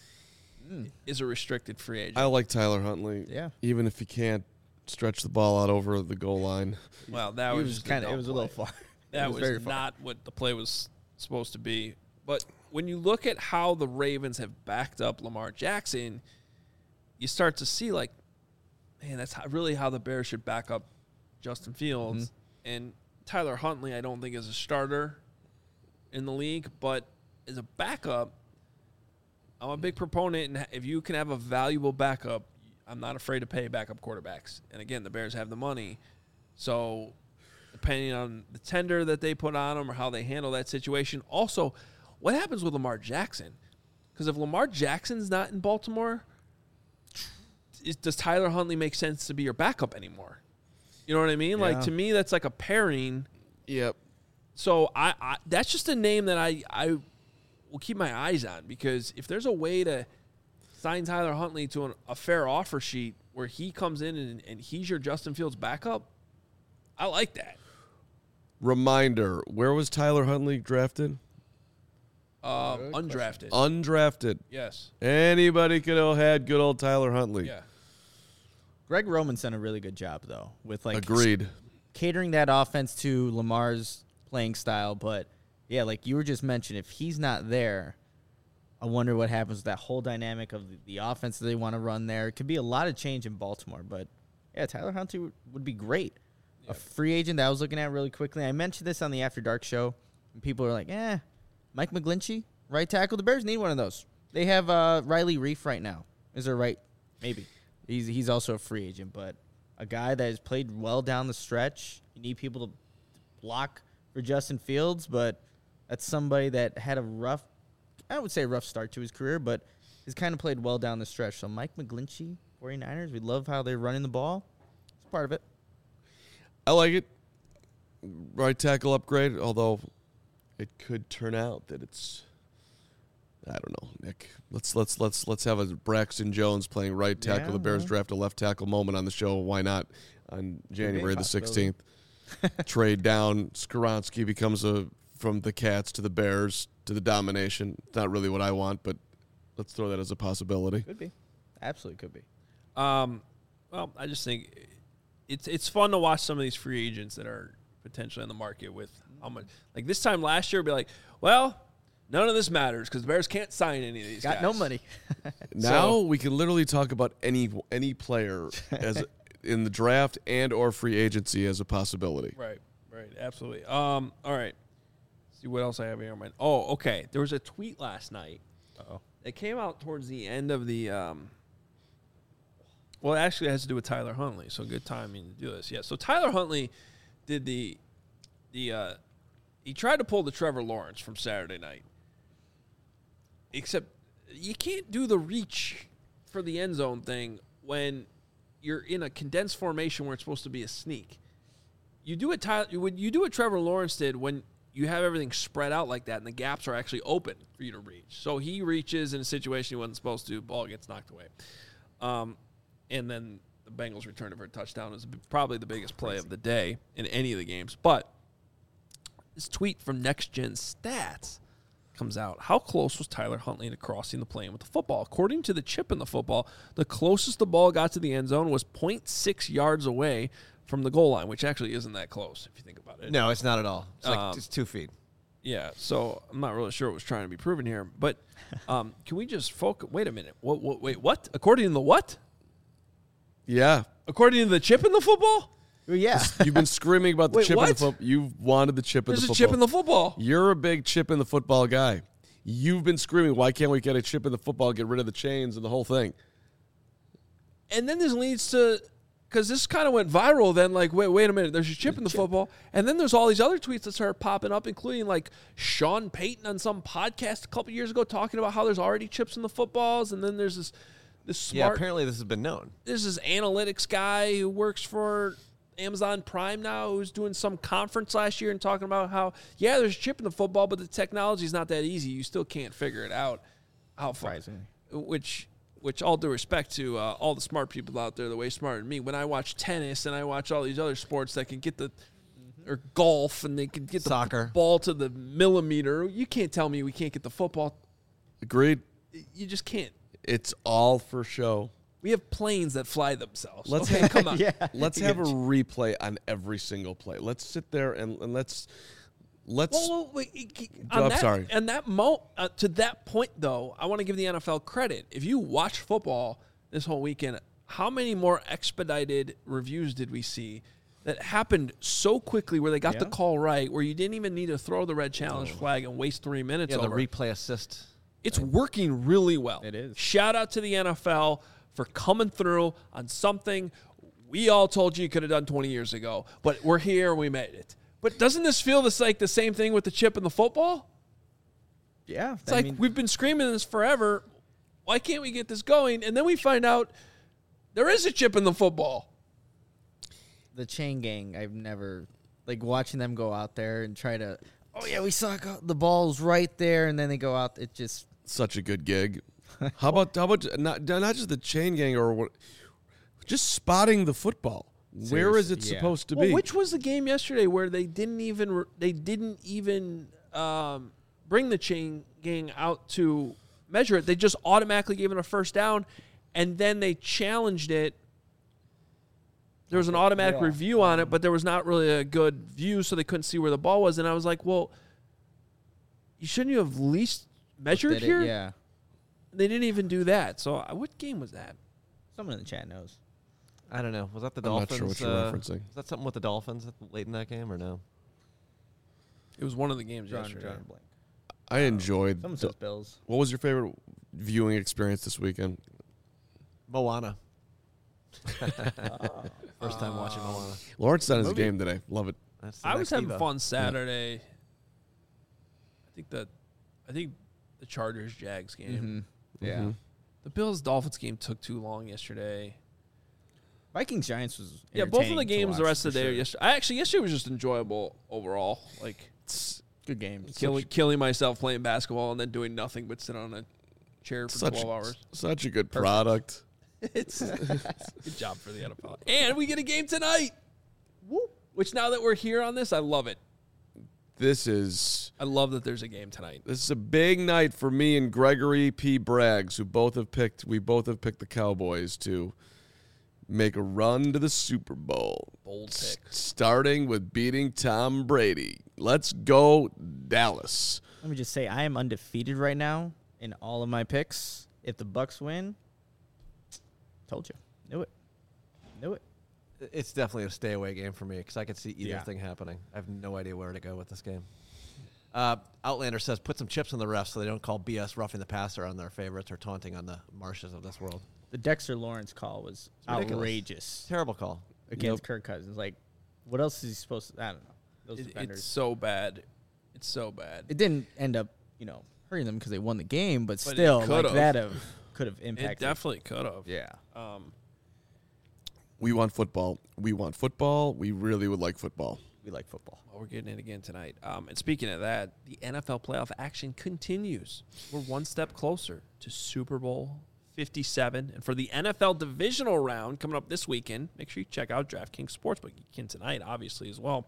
S1: is a restricted free agent.
S2: I like Tyler Huntley.
S3: Yeah.
S2: Even if he can't stretch the ball out over the goal line.
S1: Well, that was just
S3: kind of, it was a little far.
S1: That
S3: very
S1: was
S3: far.
S1: not what the play was supposed to be. But when you look at how the Ravens have backed up Lamar Jackson, you start to see, like, man, that's really how the Bears should back up Justin Fields. And Tyler Huntley, I don't think is a starter in the league, but as a backup, I'm a big proponent. And if you can have a valuable backup, I'm not afraid to pay backup quarterbacks. And again, the Bears have the money. So depending on the tender that they put on them or how they handle that situation. Also, what happens with Lamar Jackson? Because if Lamar Jackson's not in Baltimore, does Tyler Huntley make sense to be your backup anymore? You know what I mean?
S3: Yeah.
S1: Like, to me, that's like a pairing.
S2: Yep.
S1: So I that's just a name that I will keep my eyes on, because if there's a way to sign Tyler Huntley to a fair offer sheet where he comes in and he's your Justin Fields backup, I like that.
S2: Reminder, where was Tyler Huntley drafted?
S1: Undrafted.
S2: Undrafted.
S1: Yes.
S2: Anybody could have had good old Tyler Huntley.
S1: Yeah.
S3: Greg Roman's done a really good job, though, with like
S2: Agreed.
S3: catering that offense to Lamar's playing style. But yeah, like you were just mentioning, if he's not there, I wonder what happens with that whole dynamic of the offense that they want to run there. It could be a lot of change in Baltimore, but yeah, Tyler Huntley would be great. A free agent that I was looking at really quickly. I mentioned this on the After Dark show, and people are like, Mike McGlinchey, right tackle. The Bears need one of those. They have Riley Reif right now. Is there right? Maybe. He's also a free agent, but a guy that has played well down the stretch. You need people to block for Justin Fields, but that's somebody that had a rough start to his career, but has kind of played well down the stretch. So Mike McGlinchey, 49ers, we love how they're running the ball. It's part of it.
S2: I like it. Right tackle upgrade, although it could turn out that it's, I don't know, Nick. Let's have a Braxton Jones playing right tackle.
S3: Yeah,
S2: the Bears
S3: well.
S2: draft a left tackle moment on the show. Why not? On January the
S3: possibility.
S2: 16th. Trade down. Skoronski becomes from the Cats to the Bears to the domination. It's not really what I want, but let's throw that as a possibility.
S3: Could be. Absolutely could be.
S1: Well, I just think it's fun to watch some of these free agents that are potentially in the market with how much. Like this time last year, it'd be like, well, none of this matters because the Bears can't sign any of these guys.
S3: Got no money.
S2: Now we can literally talk about any player as in the draft and or free agency as a possibility.
S1: Right, absolutely. All right. See what else I have here on my. Oh, okay. There was a tweet last night. It came out towards the end of the. Well, it actually has to do with Tyler Huntley, so good timing to do this. Yeah, so Tyler Huntley did he tried to pull the Trevor Lawrence from Saturday night. Except you can't do the reach for the end zone thing when you're in a condensed formation where it's supposed to be a sneak. You do it you do what Trevor Lawrence did when you have everything spread out like that and the gaps are actually open for you to reach. So he reaches in a situation he wasn't supposed to, ball gets knocked away. And then the Bengals return it for a touchdown is probably the biggest play of the day in any of the games. But this tweet from Next Gen Stats comes out. How close was Tyler Huntley to crossing the plane with the football? According to the chip in the football, the closest the ball got to the end zone was 0.6 yards away from the goal line, which actually isn't that close if you think about it.
S4: No, it's not at all. It's like it's 2 feet.
S1: Yeah, so I'm not really sure what was trying to be proven here. But can we just focus? Wait a minute. Wait, what? According to the what?
S2: Yeah.
S1: According to the chip in the football?
S3: Well, yeah.
S2: You've been screaming about the
S1: Wait,
S2: chip in the
S1: what?
S2: football. You've wanted the chip in the
S1: There's
S2: football.
S1: a chip in the football.
S2: You're a big chip in the football guy. You've been screaming, why can't we get a chip in the football, get rid of the chains and the whole thing?
S1: And then this leads to, because this kind of went viral then, like, wait a minute, there's a chip in the football. And then there's all these other tweets that started popping up, including like Sean Payton on some podcast a couple years ago talking about how there's already chips in the footballs. And then there's this smart.
S4: Yeah, apparently this has been known.
S1: There's this analytics guy who works for Amazon Prime now who's doing some conference last year and talking about how, yeah, there's a chip in the football, but the technology is not that easy. You still can't figure it out. How far? Which all due respect to all the smart people out there, they're way smarter than me. When I watch tennis and I watch all these other sports that can get or golf and they can get
S4: Soccer.
S1: the ball to the millimeter, you can't tell me we can't get the football.
S2: Agreed.
S1: You just can't.
S2: It's all for show.
S1: We have planes that fly themselves.
S2: Let's
S1: Okay, come on.
S3: Yeah.
S2: Let's have a replay on every single play. Let's sit there and let's.
S1: Well, wait,
S2: I'm sorry.
S1: And to that point, though, I want to give the NFL credit. If you watch football this whole weekend, how many more expedited reviews did we see that happened so quickly where they got the call right, where you didn't even need to throw the red challenge flag and waste 3 minutes
S4: Yeah, the
S1: over?
S4: replay assist.
S1: It's working really well.
S3: It is.
S1: Shout out to the NFL for coming through on something we all told you could have done 20 years ago, but we're here and we made it. But doesn't this feel like the same thing with the chip in the football?
S3: Yeah.
S1: It's like we've been screaming this forever. Why can't we get this going? And then we find out there is a chip in the football.
S3: The chain gang, I've never, like, watching them go out there and try to, oh, yeah, we saw the ball's right there, and then they go out. It just,
S2: Such a good gig. How about not just the chain gang or what? Just spotting the football. Where is it
S3: Seriously, yeah.
S2: supposed to
S1: Well,
S2: be?
S1: which was the game yesterday where they didn't even bring the chain gang out to measure it? They just automatically gave it a first down, and then they challenged it. There was an automatic review on it, but there was not really a good view, so they couldn't see where the ball was. And I was like, well, shouldn't you have at least measured
S3: Did it?
S1: here?
S3: Yeah.
S1: They didn't even do that. So what game was that?
S3: Someone in the chat knows.
S4: I don't know. Was that the
S2: I'm not
S4: Dolphins?
S2: sure what you're referencing.
S4: Was that something with the Dolphins late in that game or no?
S1: It was one of the games
S3: Drawing
S1: yesterday.
S3: a blank.
S2: I enjoyed.
S3: Someone says Bills.
S2: What was your favorite viewing experience this weekend?
S4: Moana. First time watching Moana.
S2: Lawrence at his
S1: Movie.
S2: game today. Love it.
S4: That's the
S1: I was
S4: next
S1: having
S4: Evo.
S1: fun Saturday. I think the Chargers Jags game.
S3: Mm-hmm. Yeah.
S2: Mhm.
S1: The Bills Dolphins game took too long yesterday.
S3: Vikings Giants was
S1: Yeah, both of the
S3: entertaining to
S1: games the
S3: watch,
S1: rest of
S3: for
S1: the day.
S3: sure.
S1: Yesterday was just enjoyable overall. Like
S3: Good games.
S1: killing myself playing basketball and then doing nothing but sit on a chair for 12 hours.
S2: Such a good product.
S1: It's good job for the NFL. And we get a game tonight. Woo. Which now that we're here on this, I love it. I love that there's a game tonight.
S2: This is a big night for me and Gregory P. Braggs, we both have picked the Cowboys to make a run to the Super Bowl.
S1: Bold pick.
S2: Starting with beating Tom Brady. Let's go, Dallas.
S3: Let me just say, I am undefeated right now in all of my picks. If the Bucks win, told you, knew it.
S4: It's definitely a stay away game for me because I could see either
S3: Yeah.
S4: thing happening. I have no idea where to go with this game. Outlander says put some chips on the refs so they don't call BS roughing the passer on their favorites or taunting on the Marshes of this world.
S3: The Dexter Lawrence call was
S4: ridiculous.
S3: outrageous
S4: Terrible call.
S3: against Kirk Cousins. Like, what else is he supposed to? I don't know. Those defenders.
S1: It's so bad. It's so bad.
S3: It didn't end up, hurting them because they won the game, but
S1: But it
S3: still,
S1: could've.
S3: like that could have
S1: It
S3: impacted.
S1: definitely could have.
S3: Yeah.
S2: We want football. We want football. We really would like football.
S3: We like football.
S1: Well, we're getting it again tonight. And speaking of that, the NFL playoff action continues. We're one step closer to Super Bowl 57. And for the NFL divisional round coming up this weekend, make sure you check out DraftKings Sportsbook. You can tonight, obviously, as well.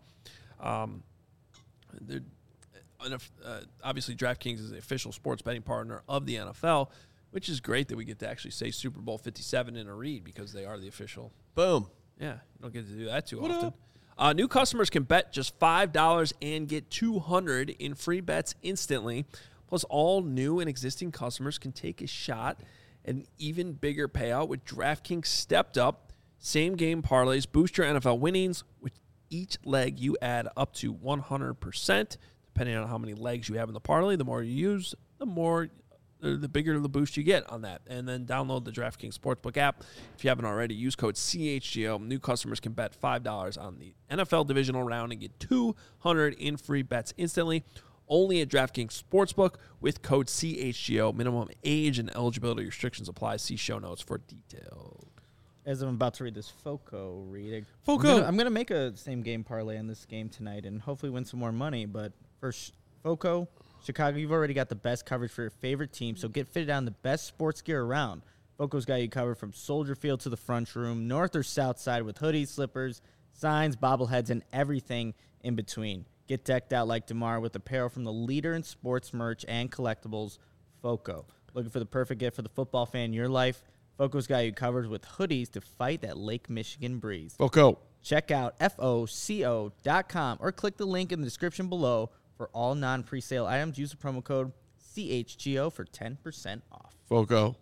S1: Obviously, DraftKings is the official sports betting partner of the NFL, which is great that we get to actually say Super Bowl 57 in a read because they are the official.
S4: Boom.
S1: Yeah, you don't get to do that too often. New customers can bet just $5 and get $200 in free bets instantly. Plus, all new and existing customers can take a shot at an even bigger payout with DraftKings Stepped Up. Same game parlays boost your NFL winnings. With each leg, you add up to 100%. Depending on how many legs you have in the parlay, the more you use, the bigger the boost you get on that. And then download the DraftKings Sportsbook app. If you haven't already, use code CHGO. New customers can bet $5 on the NFL divisional round and get $200 in free bets instantly. Only at DraftKings Sportsbook with code CHGO. Minimum age and eligibility restrictions apply. See show notes for details.
S3: As I'm about to read this FOCO read,
S2: FOCO.
S3: I'm gonna make a same game parlay in this game tonight and hopefully win some more money. But first, FOCO, Chicago, you've already got the best coverage for your favorite team, so get fitted on the best sports gear around. FOCO's got you covered from Soldier Field to the front room, north or south side, with hoodies, slippers, signs, bobbleheads, and everything in between. Get decked out like DeMar with apparel from the leader in sports merch and collectibles, FOCO. Looking for the perfect gift for the football fan in your life? FOCO's got you covered with hoodies to fight that Lake Michigan breeze.
S2: Foco.
S3: Check out FOCO.com or click the link in the description below for all non-presale items. Use the promo code CHGO for 10% off.
S2: Foco.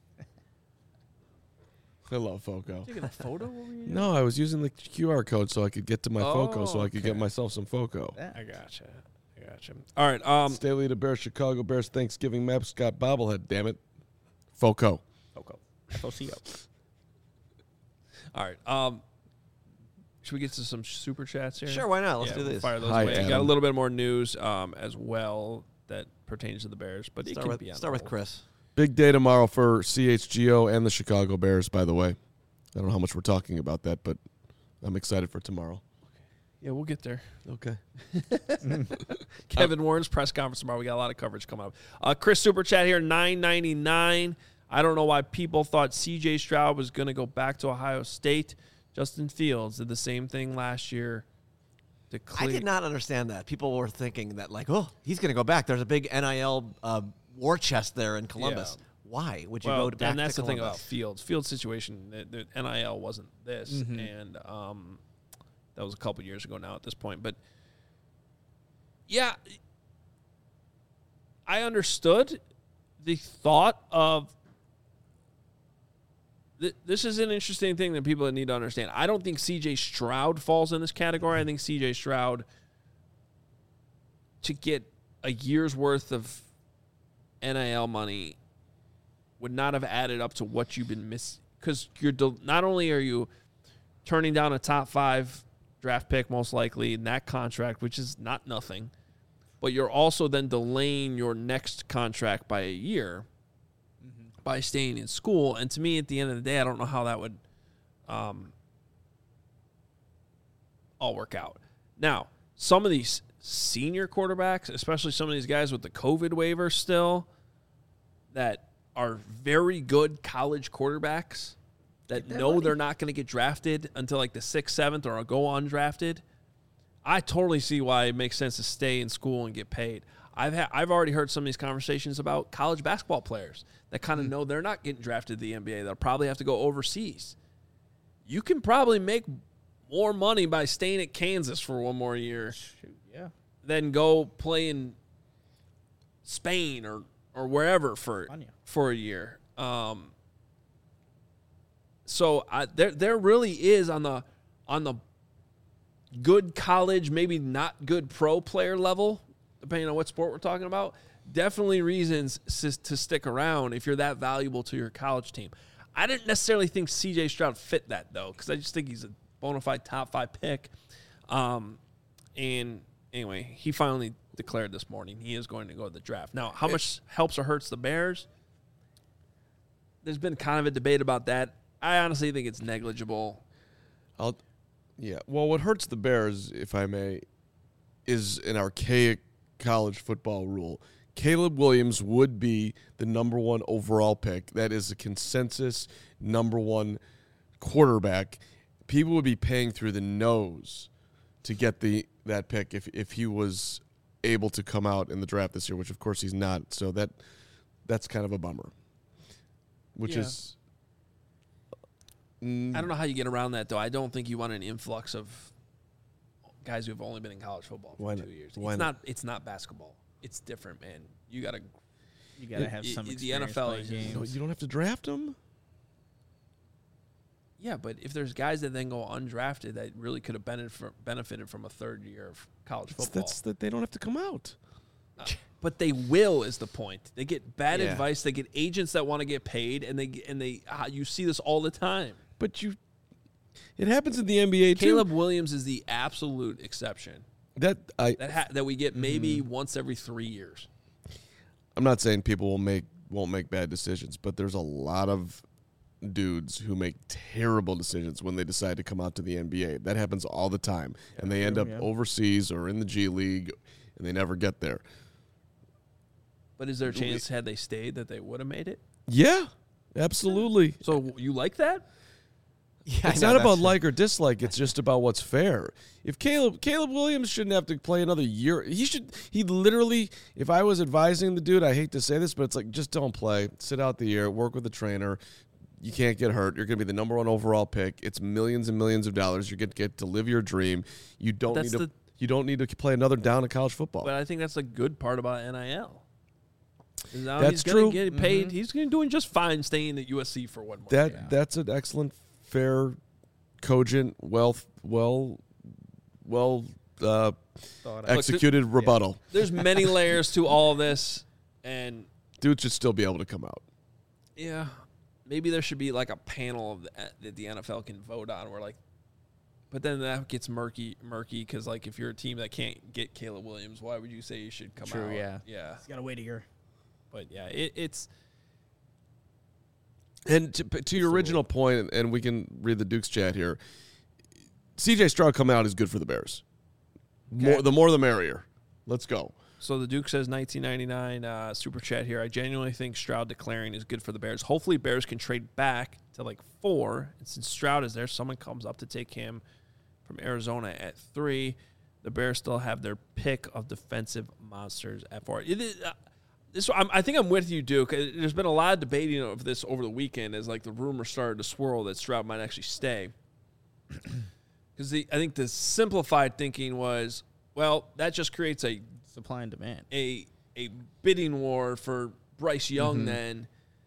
S2: I love Foco.
S1: Taking a photo over here?
S2: No, I was using the QR code so I could get to my Foco so I could get
S1: okay.
S2: myself some Foco.
S3: Yeah.
S1: I gotcha. All right.
S2: Staley the Bears, Chicago Bears Thanksgiving mascot bobblehead, damn it. Foco.
S3: FOCO. FOCO.
S1: All right. Should we get to some super chats here?
S4: Sure, why not? Let's do
S1: we'll
S4: this.
S1: Fire those
S2: Hi,
S1: away. Got a
S2: Adam.
S1: little bit more news as well that pertains to the Bears, but it
S4: Start
S1: can
S4: with,
S1: be on
S4: start
S1: the
S4: with
S1: whole.
S4: Chris.
S2: Big day tomorrow for CHGO and the Chicago Bears, by the way. I don't know how much we're talking about that, but I'm excited for tomorrow.
S1: Yeah, we'll get there.
S2: Okay.
S1: Kevin Warren's press conference tomorrow. We got a lot of coverage coming up. Chris Super Chat here, $9.99. I don't know why people thought C.J. Stroud was going to go back to Ohio State. Justin Fields did the same thing last year.
S4: I did not understand that. People were thinking that, like, oh, he's going to go back. There's a big NIL war chest there in Columbus.
S1: Yeah.
S4: Why would you go back to Columbus?
S1: And that's the thing about Fields. Fields' situation, the NIL wasn't this, and that was a couple years ago now at this point. But, yeah, I understood the thought of this is an interesting thing that people need to understand. I don't think C.J. Stroud falls in this category. I think C.J. Stroud, to get a year's worth of NIL money, would not have added up to what you've been missing. Because not only are you turning down a top 5 draft pick, most likely, in that contract, which is not nothing, but you're also then delaying your next contract by a year by staying in school. And to me, at the end of the day, I don't know how that would all work out. Now, some of these senior quarterbacks, especially some of these guys with the COVID waiver still, that are very good college quarterbacks that know they're not going to get drafted until like the 6th, 7th, or go undrafted, I totally see why it makes sense to stay in school and get paid. I've already heard some of these conversations about college basketball players that kind of know they're not getting drafted to the NBA. They'll probably have to go overseas. You can probably make more money by staying at Kansas for one more year than go play in Spain or wherever for a year. So there really is on the good college, maybe not good pro player level, depending on what sport we're talking about, definitely reasons to stick around if you're that valuable to your college team. I didn't necessarily think C.J. Stroud fit that, though, because I just think he's a bona fide top 5 pick. And anyway, he finally declared this morning he is going to go to the draft. Now, how much helps or hurts the Bears? There's been kind of a debate about that. I honestly think it's negligible.
S2: Well, what hurts the Bears, if I may, is an archaic college football rule. Caleb Williams would be the number 1 overall pick. That is a consensus number 1 quarterback. People would be paying through the nose to get that pick if he was able to come out in the draft this year, which of course he's not. So that's kind of a bummer. Which is
S1: I don't know how you get around that, though. I don't think you want an influx of guys who have only been in college football for 2 years. It's not basketball. It's different, man. You gotta
S3: have some experience.
S1: The NFL is
S3: games.
S2: You don't have to draft them.
S1: Yeah, but if there's guys that then go undrafted that really could have benefited from a third year of college football,
S2: That's that they don't have to come out.
S1: But they will is the point. They get bad advice. They get agents that want to get paid, and they you see this all the time.
S2: But it happens in the NBA too.
S1: Caleb Williams is the absolute exception. That we get maybe once every 3 years.
S2: I'm not saying people won't make bad decisions, but there's a lot of dudes who make terrible decisions when they decide to come out to the NBA. That happens all the time, and they end up overseas or in the G League, and they never get there.
S1: But is there a chance, had they stayed, that they would have made it?
S2: Yeah, absolutely.
S1: So you like that?
S4: Yeah,
S2: it's not about like or dislike. It's just about what's fair. If Caleb Williams shouldn't have to play another year, he literally, if I was advising the dude, I hate to say this, but it's like, just don't play. Sit out the year, work with the trainer. You can't get hurt. You're going to be the number 1 overall pick. It's millions and millions of dollars. You're going to get to live your dream. You don't need to play another down of college football.
S1: But I think that's the good part about NIL. Now
S2: That's
S1: he's
S2: true.
S1: Get paid. Mm-hmm. He's doing just fine staying at USC for one more year.
S2: That's an excellent, fair, cogent, executed rebuttal.
S1: There's many layers to all this, and
S2: dude should still be able to come out.
S1: Yeah, maybe there should be like a panel that the NFL can vote on. But then that gets murky because like if you're a team that can't get Caleb Williams, why would you say you should come out?
S3: True, yeah.
S1: He's
S3: got to wait a year.
S1: But yeah, it's.
S2: And to your original point, and we can read the Duke's chat here, C.J. Stroud coming out is good for the Bears. The more the merrier. Let's go.
S1: So the Duke says 1999 super chat here. I genuinely think Stroud declaring is good for the Bears. Hopefully Bears can trade back to like 4. And since Stroud is there, someone comes up to take him from Arizona at 3. The Bears still have their pick of defensive monsters at 4. I think I'm with you, Duke. There's been a lot of debating of this over the weekend as like the rumor started to swirl that Stroud might actually stay. Because I think the simplified thinking was, well, that just creates a
S3: Supply and demand.
S1: a bidding war for Bryce Young then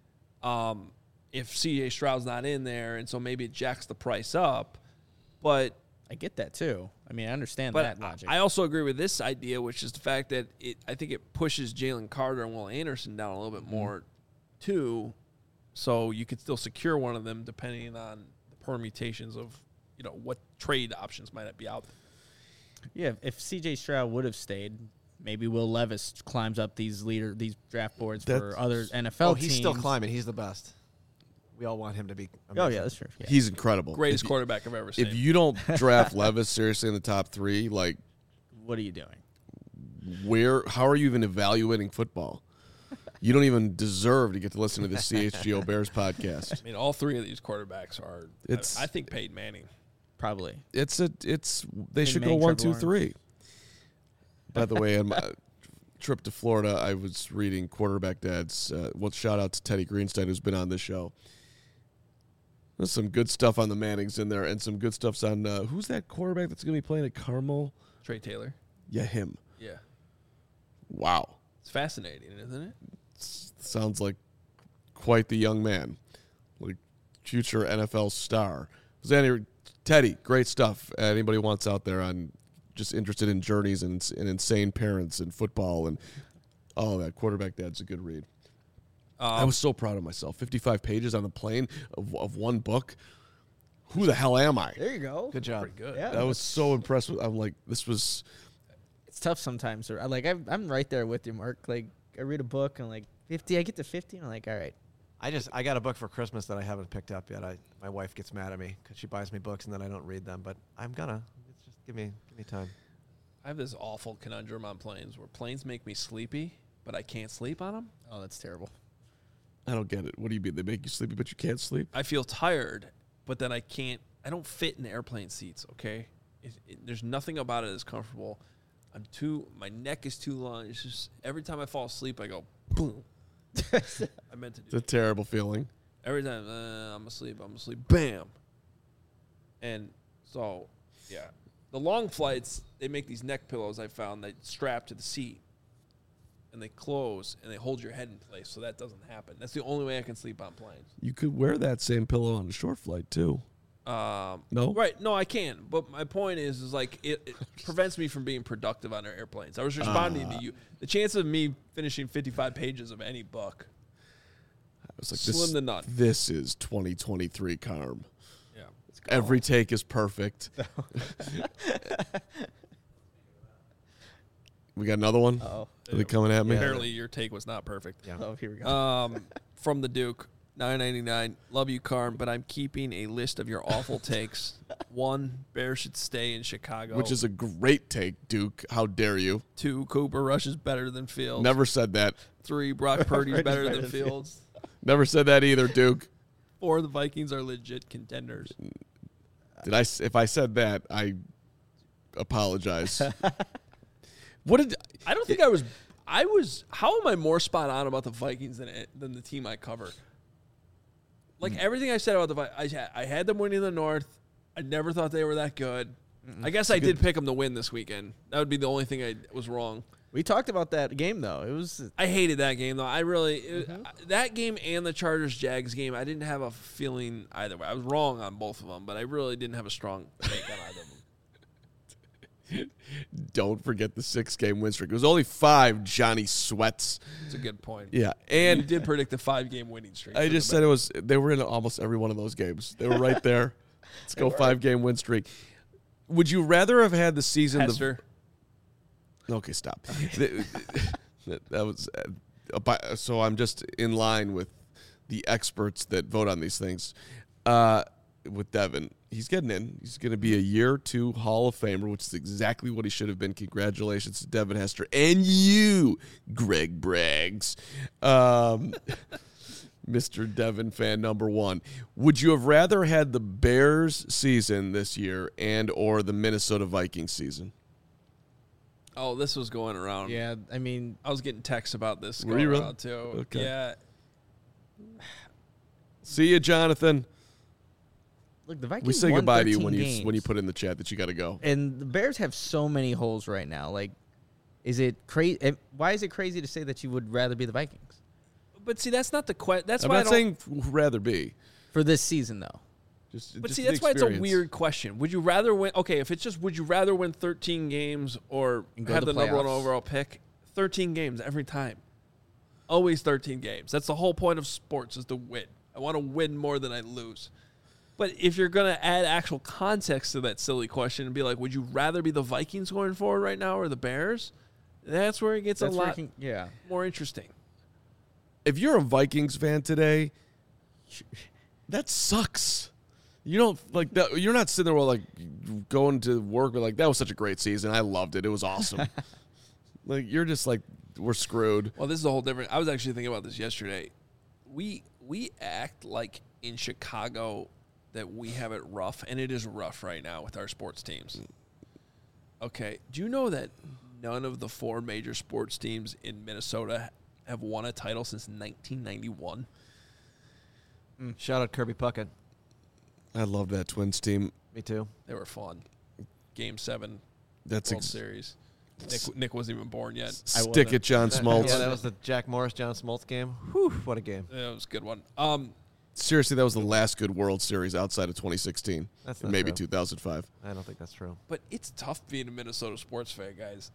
S1: if C.J. Stroud's not in there, and so maybe it jacks the price up. But
S3: I get that too. I mean, I understand
S1: but
S3: that logic.
S1: I also agree with this idea, which is the fact that I think it pushes Jalen Carter and Will Anderson down a little bit more too, so you could still secure one of them depending on the permutations of what trade options might be out there.
S3: Yeah, if C.J. Stroud would have stayed, maybe Will Levis climbs up these draft boards for other NFL teams.
S4: He's still climbing. He's the best. We all want him to be amazing.
S3: Oh, yeah, that's true. Yeah.
S2: He's incredible.
S1: Greatest quarterback I've ever seen.
S2: If you don't draft Levis seriously in the top 3, like,
S3: What are you doing?
S2: how are you even evaluating football? You don't even deserve to get to listen to the CHGO Bears podcast.
S1: I mean, all 3 of these quarterbacks are. I think Peyton Manning.
S3: Probably.
S2: They should go
S3: Manning,
S2: 1,
S3: Trevor
S2: 2, 3. By the way, on my trip to Florida, I was reading Quarterback Dads. Shout out to Teddy Greenstein, who's been on this show. There's some good stuff on the Mannings in there, and some good stuff's on who's that quarterback that's going to be playing at Carmel?
S1: Trey Taylor.
S2: Yeah, him.
S1: Yeah.
S2: Wow.
S1: It's fascinating, isn't it?
S2: Sounds like quite the young man, like future NFL star. Teddy, great stuff. Anybody wants out there on just interested in journeys and insane parents and football and all that. Quarterback Dad's a good read. I was so proud of myself. 55 pages on the plane of one book. Who the hell am I?
S3: There you go.
S4: Good job.
S1: Pretty good.
S3: Yeah.
S2: I was so impressed with. I'm like, this was.
S3: It's tough sometimes. I'm right there with you, Mark. Like, I read a book and 50. I get to 50 and I'm like, all right.
S4: I got a book for Christmas that I haven't picked up yet. My wife gets mad at me because she buys me books and then I don't read them. But I'm gonna. It's just give me time.
S1: I have this awful conundrum on planes where planes make me sleepy, but I can't sleep on them.
S3: Oh, that's terrible.
S2: I don't get it. What do you mean? They make you sleepy, but you can't sleep?
S1: I feel tired, but then I don't fit in the airplane seats, okay? There's nothing about it that's comfortable. My neck is too long. It's just every time I fall asleep, I go, boom. I meant to do
S2: It's a terrible feeling.
S1: every time. I'm asleep, bam. And so, yeah. The long flights, they make these neck pillows I found that strap to the seat. And they close, and they hold your head in place, so that doesn't happen. That's the only way I can sleep on planes.
S2: You could wear that same pillow on a short flight too. No?
S1: Right. No, I can. But my point is like it prevents me from being productive on our airplanes. I was responding to you. The chance of me finishing 55 pages of any book,
S2: I was like,
S1: slim to none.
S2: This is 2023 Carm.
S1: Yeah.
S2: Every take is perfect. We got another one?
S3: Oh.
S2: Are they coming at me?
S1: Apparently your take was not perfect.
S4: Yeah.
S3: Oh, here we go.
S1: From the Duke, $9.99. Love you, Carm, but I'm keeping a list of your awful takes. 1, Bears should stay in Chicago.
S2: Which is a great take, Duke. How dare you?
S1: 2, Cooper Rush is better than Fields.
S2: Never said that.
S1: 3, Brock Purdy's better than Fields.
S2: Never said that either, Duke.
S1: 4, the Vikings are legit contenders.
S2: If I said that, I apologize.
S1: I don't think I was. How am I more spot on about the Vikings than the team I cover? Like everything I said about the Vikings, I had them winning the North. I never thought they were that good. I guess I did pick them to win this weekend. That would be the only thing I was wrong.
S3: We talked about that game, though. It was.
S1: I hated that game, though. I really that game and the Chargers-Jags game, I didn't have a feeling either way. I was wrong on both of them, but I really didn't have a strong take on either of them.
S2: Don't forget the 6-game win streak. It was only 5 Johnny Sweats.
S1: That's a good point.
S2: Yeah,
S1: And you
S2: and
S1: did predict a 5-game winning streak.
S2: I just said they were in almost every one of those games. They were right there. Let's go 5-game win streak. Would you rather have had the season?
S1: Hester.
S2: Okay, stop. that was so. I'm just in line with the experts that vote on these things. with Devin. He's getting in. He's going to be a year 2 Hall of Famer, which is exactly what he should have been. Congratulations to Devin Hester and you, Greg Braggs. Mr. Devin fan number 1. Would you have rather had the Bears season this year and or the Minnesota Vikings season?
S1: Oh, this was going around.
S3: Yeah, I mean,
S1: I was getting texts about this
S2: Were
S1: going
S2: you really?
S1: around, too.
S2: Okay.
S1: Yeah.
S2: See you, Jonathan.
S3: look, the Vikings
S2: We say
S3: won
S2: goodbye to you
S3: 13
S2: when
S3: games.
S2: you put in the chat that you got to go.
S3: And the Bears have so many holes right now. Like, is it crazy? Why is it crazy to say that you would rather be the Vikings
S1: But see, that's not the question. That's
S2: I'm
S1: why
S2: not saying rather be.
S3: for this season, though?
S1: But
S2: just
S1: see,
S2: the
S1: that's why it's a
S2: experience.
S1: weird question. Would you rather win? Okay, if it's just would you rather win 13 games or
S3: And go
S1: have
S3: to
S1: the
S3: the
S1: number 1
S3: playoffs.
S1: overall pick? 13 games every time. Always 13 games. That's the whole point of sports is to win. I want to win more than I lose. But if you're going to add actual context to that silly question and be like, would you rather be the Vikings going forward right now or the Bears? That's where it gets a lot
S3: Yeah.
S1: more interesting.
S2: If you're a Vikings fan today, that sucks. You don't like that. You're not sitting there like going to work with like that was such a great season. I loved it. It was awesome. Like you're just like we're screwed.
S1: Well, this is a whole different. I was actually thinking about this yesterday. We act like in Chicago that we have it rough, and it is rough right now with our sports teams. Okay, do you know that none of the 4 major sports teams in Minnesota have won a title since 1991?
S4: Shout out Kirby Puckett.
S2: I love that Twins team.
S4: Me too.
S1: They were fun. Game 7
S2: That's
S1: World Series. Nick wasn't even born yet.
S2: stick it, John Smoltz.
S4: Yeah, that was the Jack Morris, John Smoltz game. Whew, what a game.
S1: Yeah, it was a good one.
S2: Seriously, that was the last good World Series outside of 2016.
S4: That's
S2: and
S4: not
S2: maybe
S4: true.
S2: 2005.
S4: I don't think that's true.
S1: But it's tough being a Minnesota sports fan, guys.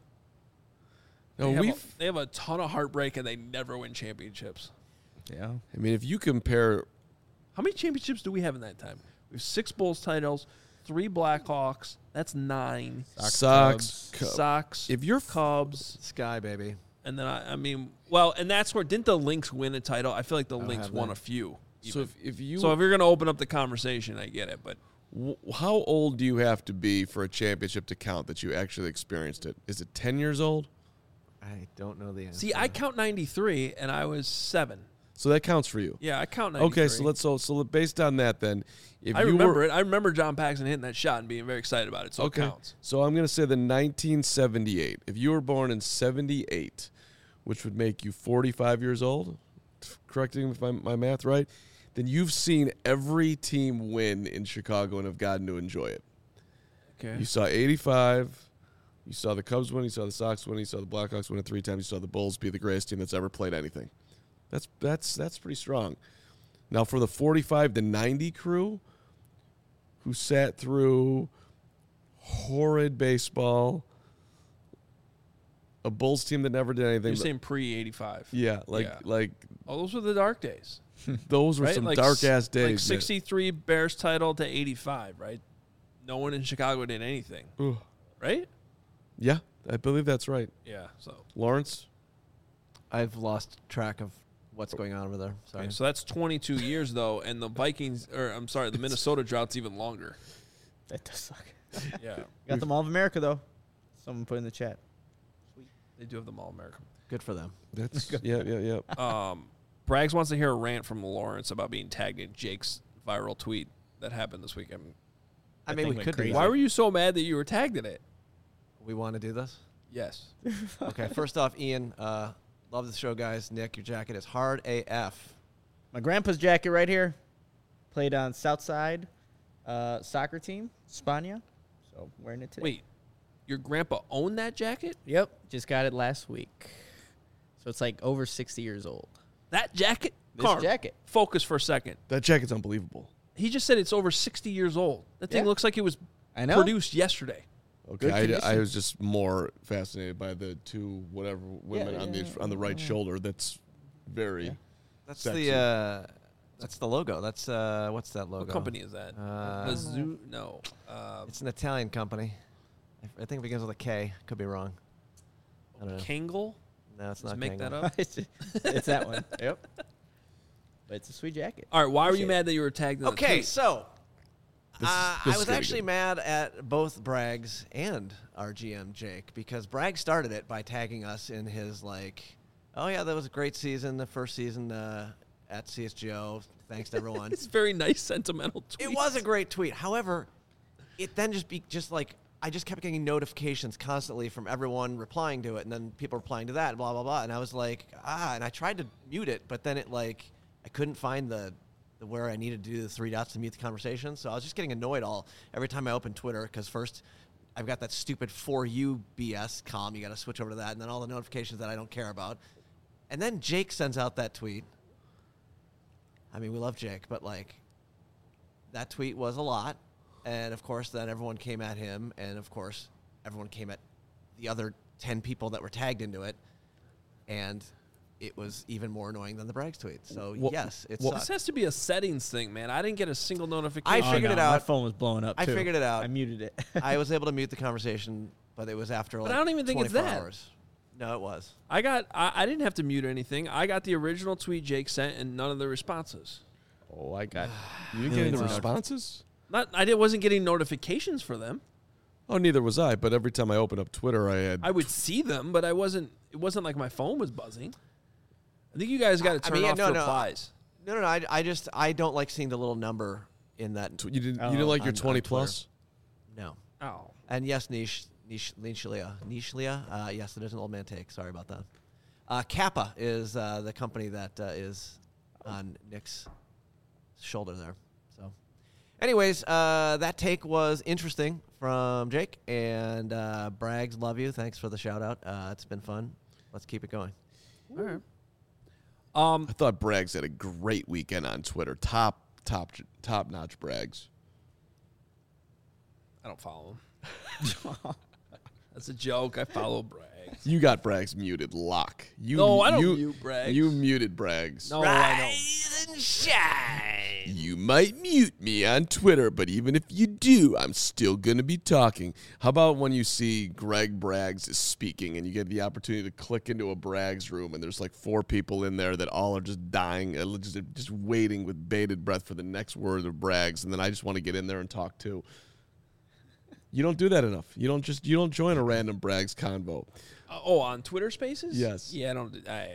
S2: No,
S1: They have a ton of heartbreak, and they never win championships.
S3: Yeah.
S2: I mean, if you compare,
S1: How many championships do we have in that time? We have 6 Bulls titles, 3 Blackhawks. That's 9.
S2: Sox,
S1: Sox.
S2: if you're
S1: Cubs,
S4: Sky, baby.
S1: and then I mean, well, and that's where didn't the Lynx win a title? I feel like the Lynx
S4: have
S1: won
S4: they?
S1: a few.
S2: so
S1: even.
S2: if you
S1: So if you're going to open up the conversation, I get it, but
S2: how old do you have to be for a championship to count that you actually experienced it? Is it 10 years old?
S4: I don't know the answer.
S1: see, I count 93, and I was 7.
S2: So that counts for you.
S1: Yeah, I count 93.
S2: Okay, so based on that, then, if
S1: I
S2: you
S1: remember
S2: were,
S1: it. I remember John Paxson hitting that shot and being very excited about it, so
S2: okay,
S1: it counts.
S2: so I'm going to say the 1978. If you were born in 78, which would make you 45 years old, correcting if my math right, then you've seen every team win in Chicago and have gotten to enjoy it.
S1: Okay.
S2: You saw 85. You saw the Cubs win. You saw the Sox win. You saw the Blackhawks win it 3 times. You saw the Bulls be the greatest team that's ever played anything. That's pretty strong. Now for the 45 to 90 crew, who sat through horrid baseball, a Bulls team that never did anything.
S1: You're saying pre-85.
S2: Yeah, like
S1: Oh, those were the dark days.
S2: those were
S1: Right?
S2: some
S1: Like
S2: dark ass
S1: Like
S2: days. man.
S1: 63 Bears title to 85, right? No one in Chicago did anything,
S2: Ugh.
S1: right?
S2: Yeah, I believe that's right.
S1: Yeah. So,
S2: Lawrence,
S4: I've lost track of what's going on over there. Sorry.
S1: okay, so that's 22 years though, and the Vikings, or I'm sorry, the Minnesota drought's even longer.
S3: That does suck.
S1: Yeah,
S3: Got the Mall of America, though. Someone put in the chat.
S1: they do have them all American.
S4: Good for them.
S2: that's yeah.
S1: Braggs wants to hear a rant from Lawrence about being tagged in Jake's viral tweet that happened this weekend.
S4: I
S3: That
S4: mean,
S3: thing
S4: we
S3: went
S4: could do
S3: crazy.
S4: that.
S1: Why were you so mad that you were tagged in it?
S4: We want to do this?
S1: Yes.
S4: Okay, first off, Ian, love the show, guys. Nick, your jacket is hard AF.
S3: My grandpa's jacket right here. Played on Southside soccer team, Spania. So wearing it today.
S1: Wait, your grandpa owned that jacket?
S3: Yep. Just got it last week. So it's like over 60 years old.
S1: That jacket?
S3: This
S1: Carm,
S3: jacket.
S1: Focus for a second.
S2: That jacket's unbelievable.
S1: He just said it's over 60 years old. That thing
S3: Yeah.
S1: looks like it was
S3: I know.
S1: produced yesterday.
S2: Okay,
S3: Good
S2: I
S3: condition.
S2: was just more fascinated by the 2 whatever women on the right shoulder. That's very.
S3: Yeah.
S4: That's
S2: Sexy.
S4: that's the logo. That's what's that logo?
S1: What company is that? Mizzou? No.
S4: It's an Italian company. I think it begins with a K. Could be wrong. I don't know.
S1: Kangol?
S4: No, it's
S1: Let's
S4: not.
S1: make
S4: Kangol.
S1: that up.
S3: It's that one. Yep. But it's a sweet jacket.
S1: All right, why were you
S3: Appreciate
S1: mad that you were tagged in the
S4: Okay,
S1: tweet?
S4: so I was actually mad at both Braggs and our GM Jake because Bragg started it by tagging us in his oh yeah, that was a great season, the first season at CSGO. Thanks to everyone.
S1: It's a very nice sentimental tweet.
S4: It was a great tweet. However, it then I just kept getting notifications constantly from everyone replying to it, and then people replying to that, blah blah blah. And I was like, and I tried to mute it, but then I couldn't find the where I needed to do the 3 dots to mute the conversation. So I was just getting annoyed every time I opened Twitter because first I've got that stupid For You BS column. You got to switch over to that, and then all the notifications that I don't care about. And then Jake sends out that tweet. I mean, we love Jake, but that tweet was a lot. And of course, then everyone came at him, and of course, everyone came at the other 10 people that were tagged into it. And it was even more annoying than the Braggs tweet. So, yes, it sucked.
S1: This has to be a settings thing, man. I didn't get a single notification.
S4: I figured it out.
S3: My phone was blowing up,
S4: I
S3: too.
S4: figured it out.
S3: I muted it.
S4: I was able to mute the conversation, but it was after
S1: But I don't even think it's
S4: 24
S1: that.
S4: hours. No, it was.
S1: I didn't have to mute anything. I got the original tweet Jake sent and none of the responses.
S2: Oh, I got. You didn't get any responses?
S1: Wasn't getting notifications for them.
S2: Oh, neither was I. But every time I opened up Twitter,
S1: I would see them, but it wasn't like my phone was buzzing. I think you guys got to turn off replies.
S4: No. I don't like seeing the little number in that.
S2: You didn't like your 20 plus?
S4: No.
S1: Oh.
S4: And yes, Nichelia. Yes, it is an old man take. Sorry about that. Kappa is the company that is on Nick's shoulder there. So, anyways, that take was interesting from Jake. And Braggs, love you. Thanks for the shout out. It's been fun. Let's keep it going.
S1: All right.
S2: I thought Braggs had a great weekend on Twitter. Top notch Braggs.
S1: I don't follow him. That's a joke. I follow Braggs.
S2: You got Braggs muted. Lock.
S1: No, I don't mute Braggs.
S2: You muted Braggs.
S1: No,
S4: Rise and shine.
S2: You might mute me on Twitter, but even if you do, I'm still going to be talking. How about when you see Greg Braggs is speaking and you get the opportunity to click into a Braggs room and there's 4 people in there that all are just dying, just waiting with bated breath for the next word of Braggs, and then I just want to get in there and talk too. You don't do that enough. You don't join a random Braggs convo.
S1: On Twitter Spaces?
S2: Yes.
S1: Yeah, I don't.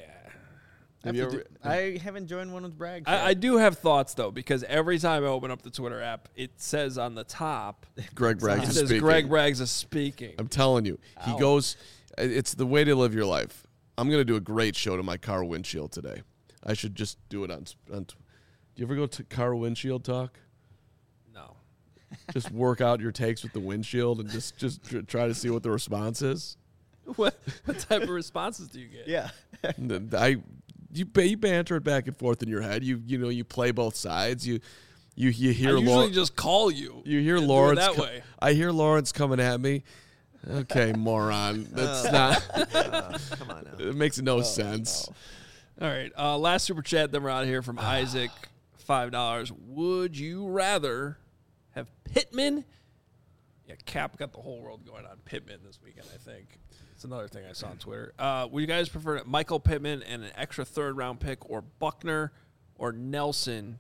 S3: I haven't joined one with Bragg.
S1: I do have thoughts though, because every time I open up the Twitter app, it says on the top,
S2: Greg Braggs is speaking.
S1: Greg Braggs is speaking.
S2: I'm telling you, he goes. It's the way to live your life. I'm gonna do a great show to my car windshield today. I should just do it on. Do you ever go to car windshield talk?
S1: No.
S2: Just work out your takes with the windshield and just try to see what the response is.
S1: What type of responses do you get?
S3: Yeah.
S2: You banter it back and forth in your head. You play both sides. You hear.
S1: I usually just call you.
S2: You hear
S1: and
S2: Lawrence
S1: do it that way.
S2: I hear Lawrence coming at me. Okay, moron. That's not.
S4: Come on now.
S2: It makes no sense.
S1: All right. Last super chat. Then we're out of here from Isaac. $5. Would you rather have Pittman? Yeah, Cap got the whole world going on Pittman this weekend, I think. It's another thing I saw on Twitter. Would you guys prefer Michael Pittman and an extra 3rd round pick, or Buckner or Nelson?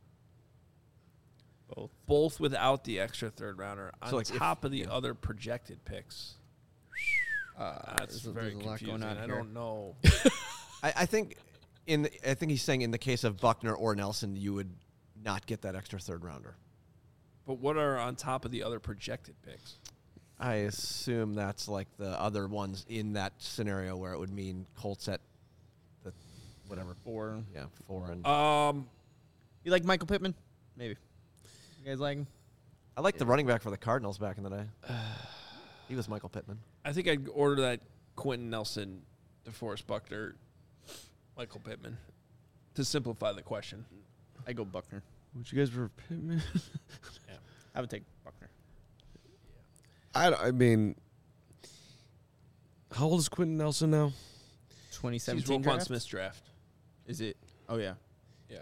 S1: Both without the extra 3rd rounder on top of the other projected picks. That's very confusing. I don't know.
S4: I think he's saying in the case of Buckner or Nelson, you would not get that extra 3rd rounder.
S1: But what are on top of the other projected picks?
S4: I assume that's the other ones in that scenario where it would mean Colts at the whatever
S3: 4.
S4: Yeah, 4 and.
S3: You like Michael Pittman? Maybe. You guys like him?
S4: I like the running back for the Cardinals back in the day. He was Michael Pittman.
S1: I think I'd order that Quentin Nelson, DeForest Buckner, Michael Pittman, to simplify the question.
S3: I go Buckner.
S2: Would you guys prefer Pittman?
S3: Yeah, I would take Buckner.
S2: I mean, how old is Quentin Nelson now?
S3: 2017
S1: He's Roquan Smith's draft.
S3: Is it? Oh, yeah.
S1: Yeah.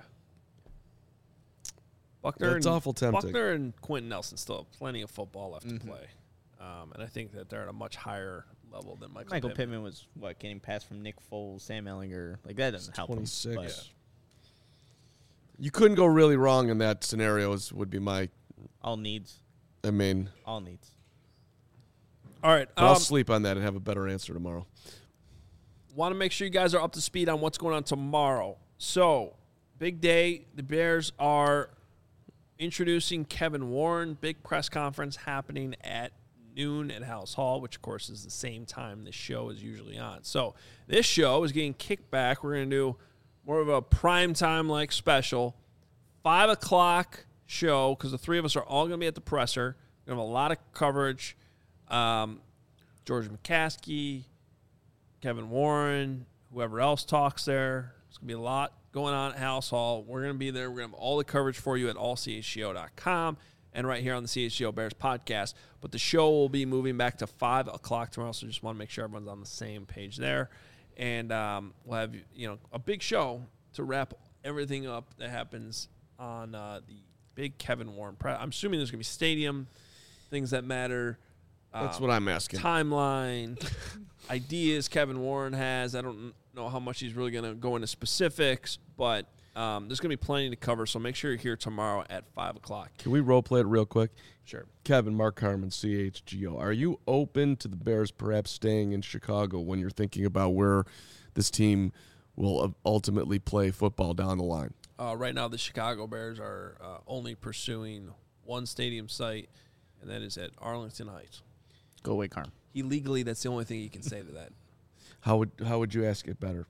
S1: Buckner.
S2: That's awful tempting.
S1: Buckner and Quentin Nelson still have plenty of football left to play. And I think that they're at a much higher level than Michael
S3: Pittman was, getting passed from Nick Foles, Sam Ellinger. That doesn't help
S2: 26.
S3: him.
S2: You couldn't go really wrong in that scenario, would be my
S3: All needs.
S2: I mean,
S3: All needs.
S1: All right.
S2: I'll sleep on that and have a better answer tomorrow.
S1: Want to make sure you guys are up to speed on what's going on tomorrow. So, big day. The Bears are introducing Kevin Warren. Big press conference happening at noon at House Hall, which, of course, is the same time this show is usually on. So, this show is getting kicked back. We're going to do more of a primetime-like special. 5 o'clock show, because the three of us are all going to be at the presser. We're going to have a lot of coverage. George McCaskey, Kevin Warren, whoever else talks there. There's going to be a lot going on at House Hall. We're going to be there. We're going to have all the coverage for you at allchgo.com and right here on the CHGO Bears podcast. But the show will be moving back to 5 o'clock tomorrow, so just want to make sure everyone's on the same page there. And we'll have a big show to wrap everything up that happens on the big Kevin Warren press. I'm assuming there's going to be stadium, things that matter.
S2: That's what I'm asking.
S1: Timeline, ideas Kevin Warren has. I don't know how much he's really going to go into specifics, but there's going to be plenty to cover, so make sure you're here tomorrow at 5 o'clock.
S2: Can we role play it real quick?
S1: Sure.
S2: Kevin, Mark Harmon, CHGO. Are you open to the Bears perhaps staying in Chicago when you're thinking about where this team will ultimately play football down the line?
S1: Right now, the Chicago Bears are only pursuing one stadium site, and that is at Arlington Heights.
S3: Go away, Carm.
S1: Legally, that's the only thing you can say to that.
S2: How would you ask it better?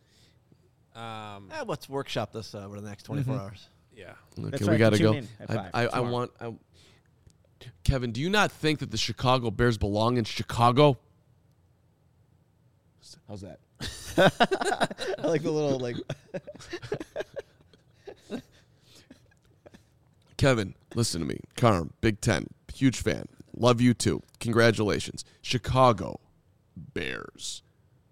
S4: Let's workshop this over the next 24 hours.
S1: Yeah.
S2: Okay,
S3: That's
S2: we
S3: right,
S2: got to
S3: tune
S2: go.
S3: in at 5 tomorrow.
S2: Kevin, do you not think that the Chicago Bears belong in Chicago? How's that?
S3: I like the little
S2: Kevin, listen to me. Carm, Big Ten, huge fan. Love you too. Congratulations. Chicago Bears.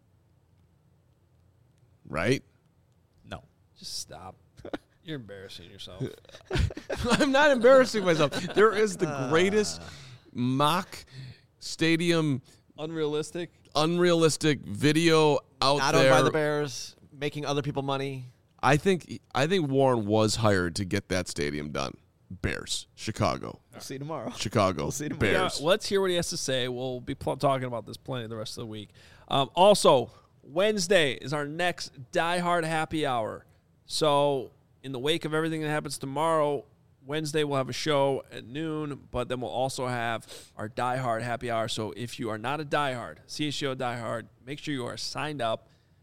S2: Right?
S3: No.
S1: Just stop. You're embarrassing yourself.
S2: I'm not embarrassing myself. There is the greatest mock stadium
S1: Unrealistic
S2: video out
S4: Not
S2: there.
S4: owned by the Bears, making other people money.
S2: I think Warren was hired to get that stadium done. Bears, Chicago,
S3: We'll see you tomorrow.
S2: Chicago,
S3: We'll see tomorrow.
S1: Yeah,
S2: Bears.
S1: let's hear what he has to say. We'll be talking about this plenty the rest of the week. Also, Wednesday is our next Die Hard happy hour. So, in the wake of everything that happens tomorrow, Wednesday we'll have a show at noon, but then we'll also have our Die Hard happy hour. So, if you are not a Die Hard, CHGO Die Hard, make sure you are signed up.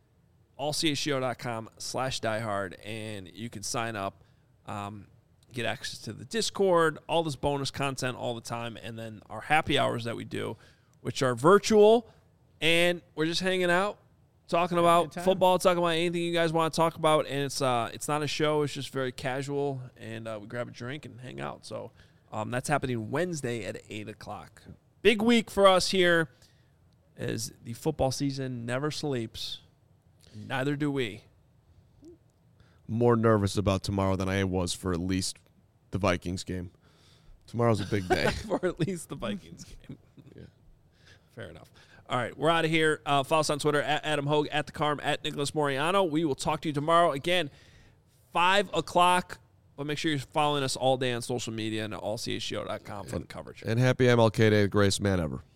S1: allchgo.com/diehard, and you can sign up. Get access to the Discord, all this bonus content all the time, and then our happy hours that we do, which are virtual, and we're just hanging out, talking about football, talking about anything you guys want to talk about, and it's not a show, it's just very casual, and we grab a drink and hang out. So that's happening Wednesday at 8 o'clock. Big week for us here, as the football season never sleeps. Neither do we.
S2: More nervous about tomorrow than I was for at least the Vikings game. Tomorrow's a big day.
S1: For at least the Vikings game.
S2: Yeah.
S1: Fair enough. All right, we're out of here. Follow us on Twitter at Adam Hogue, at the Carm, at Nicholas Moriano. We will talk to you tomorrow again, 5 o'clock. But make sure you're following us all day on social media and at allchgo.com for the coverage.
S2: And happy MLK Day, the greatest man ever.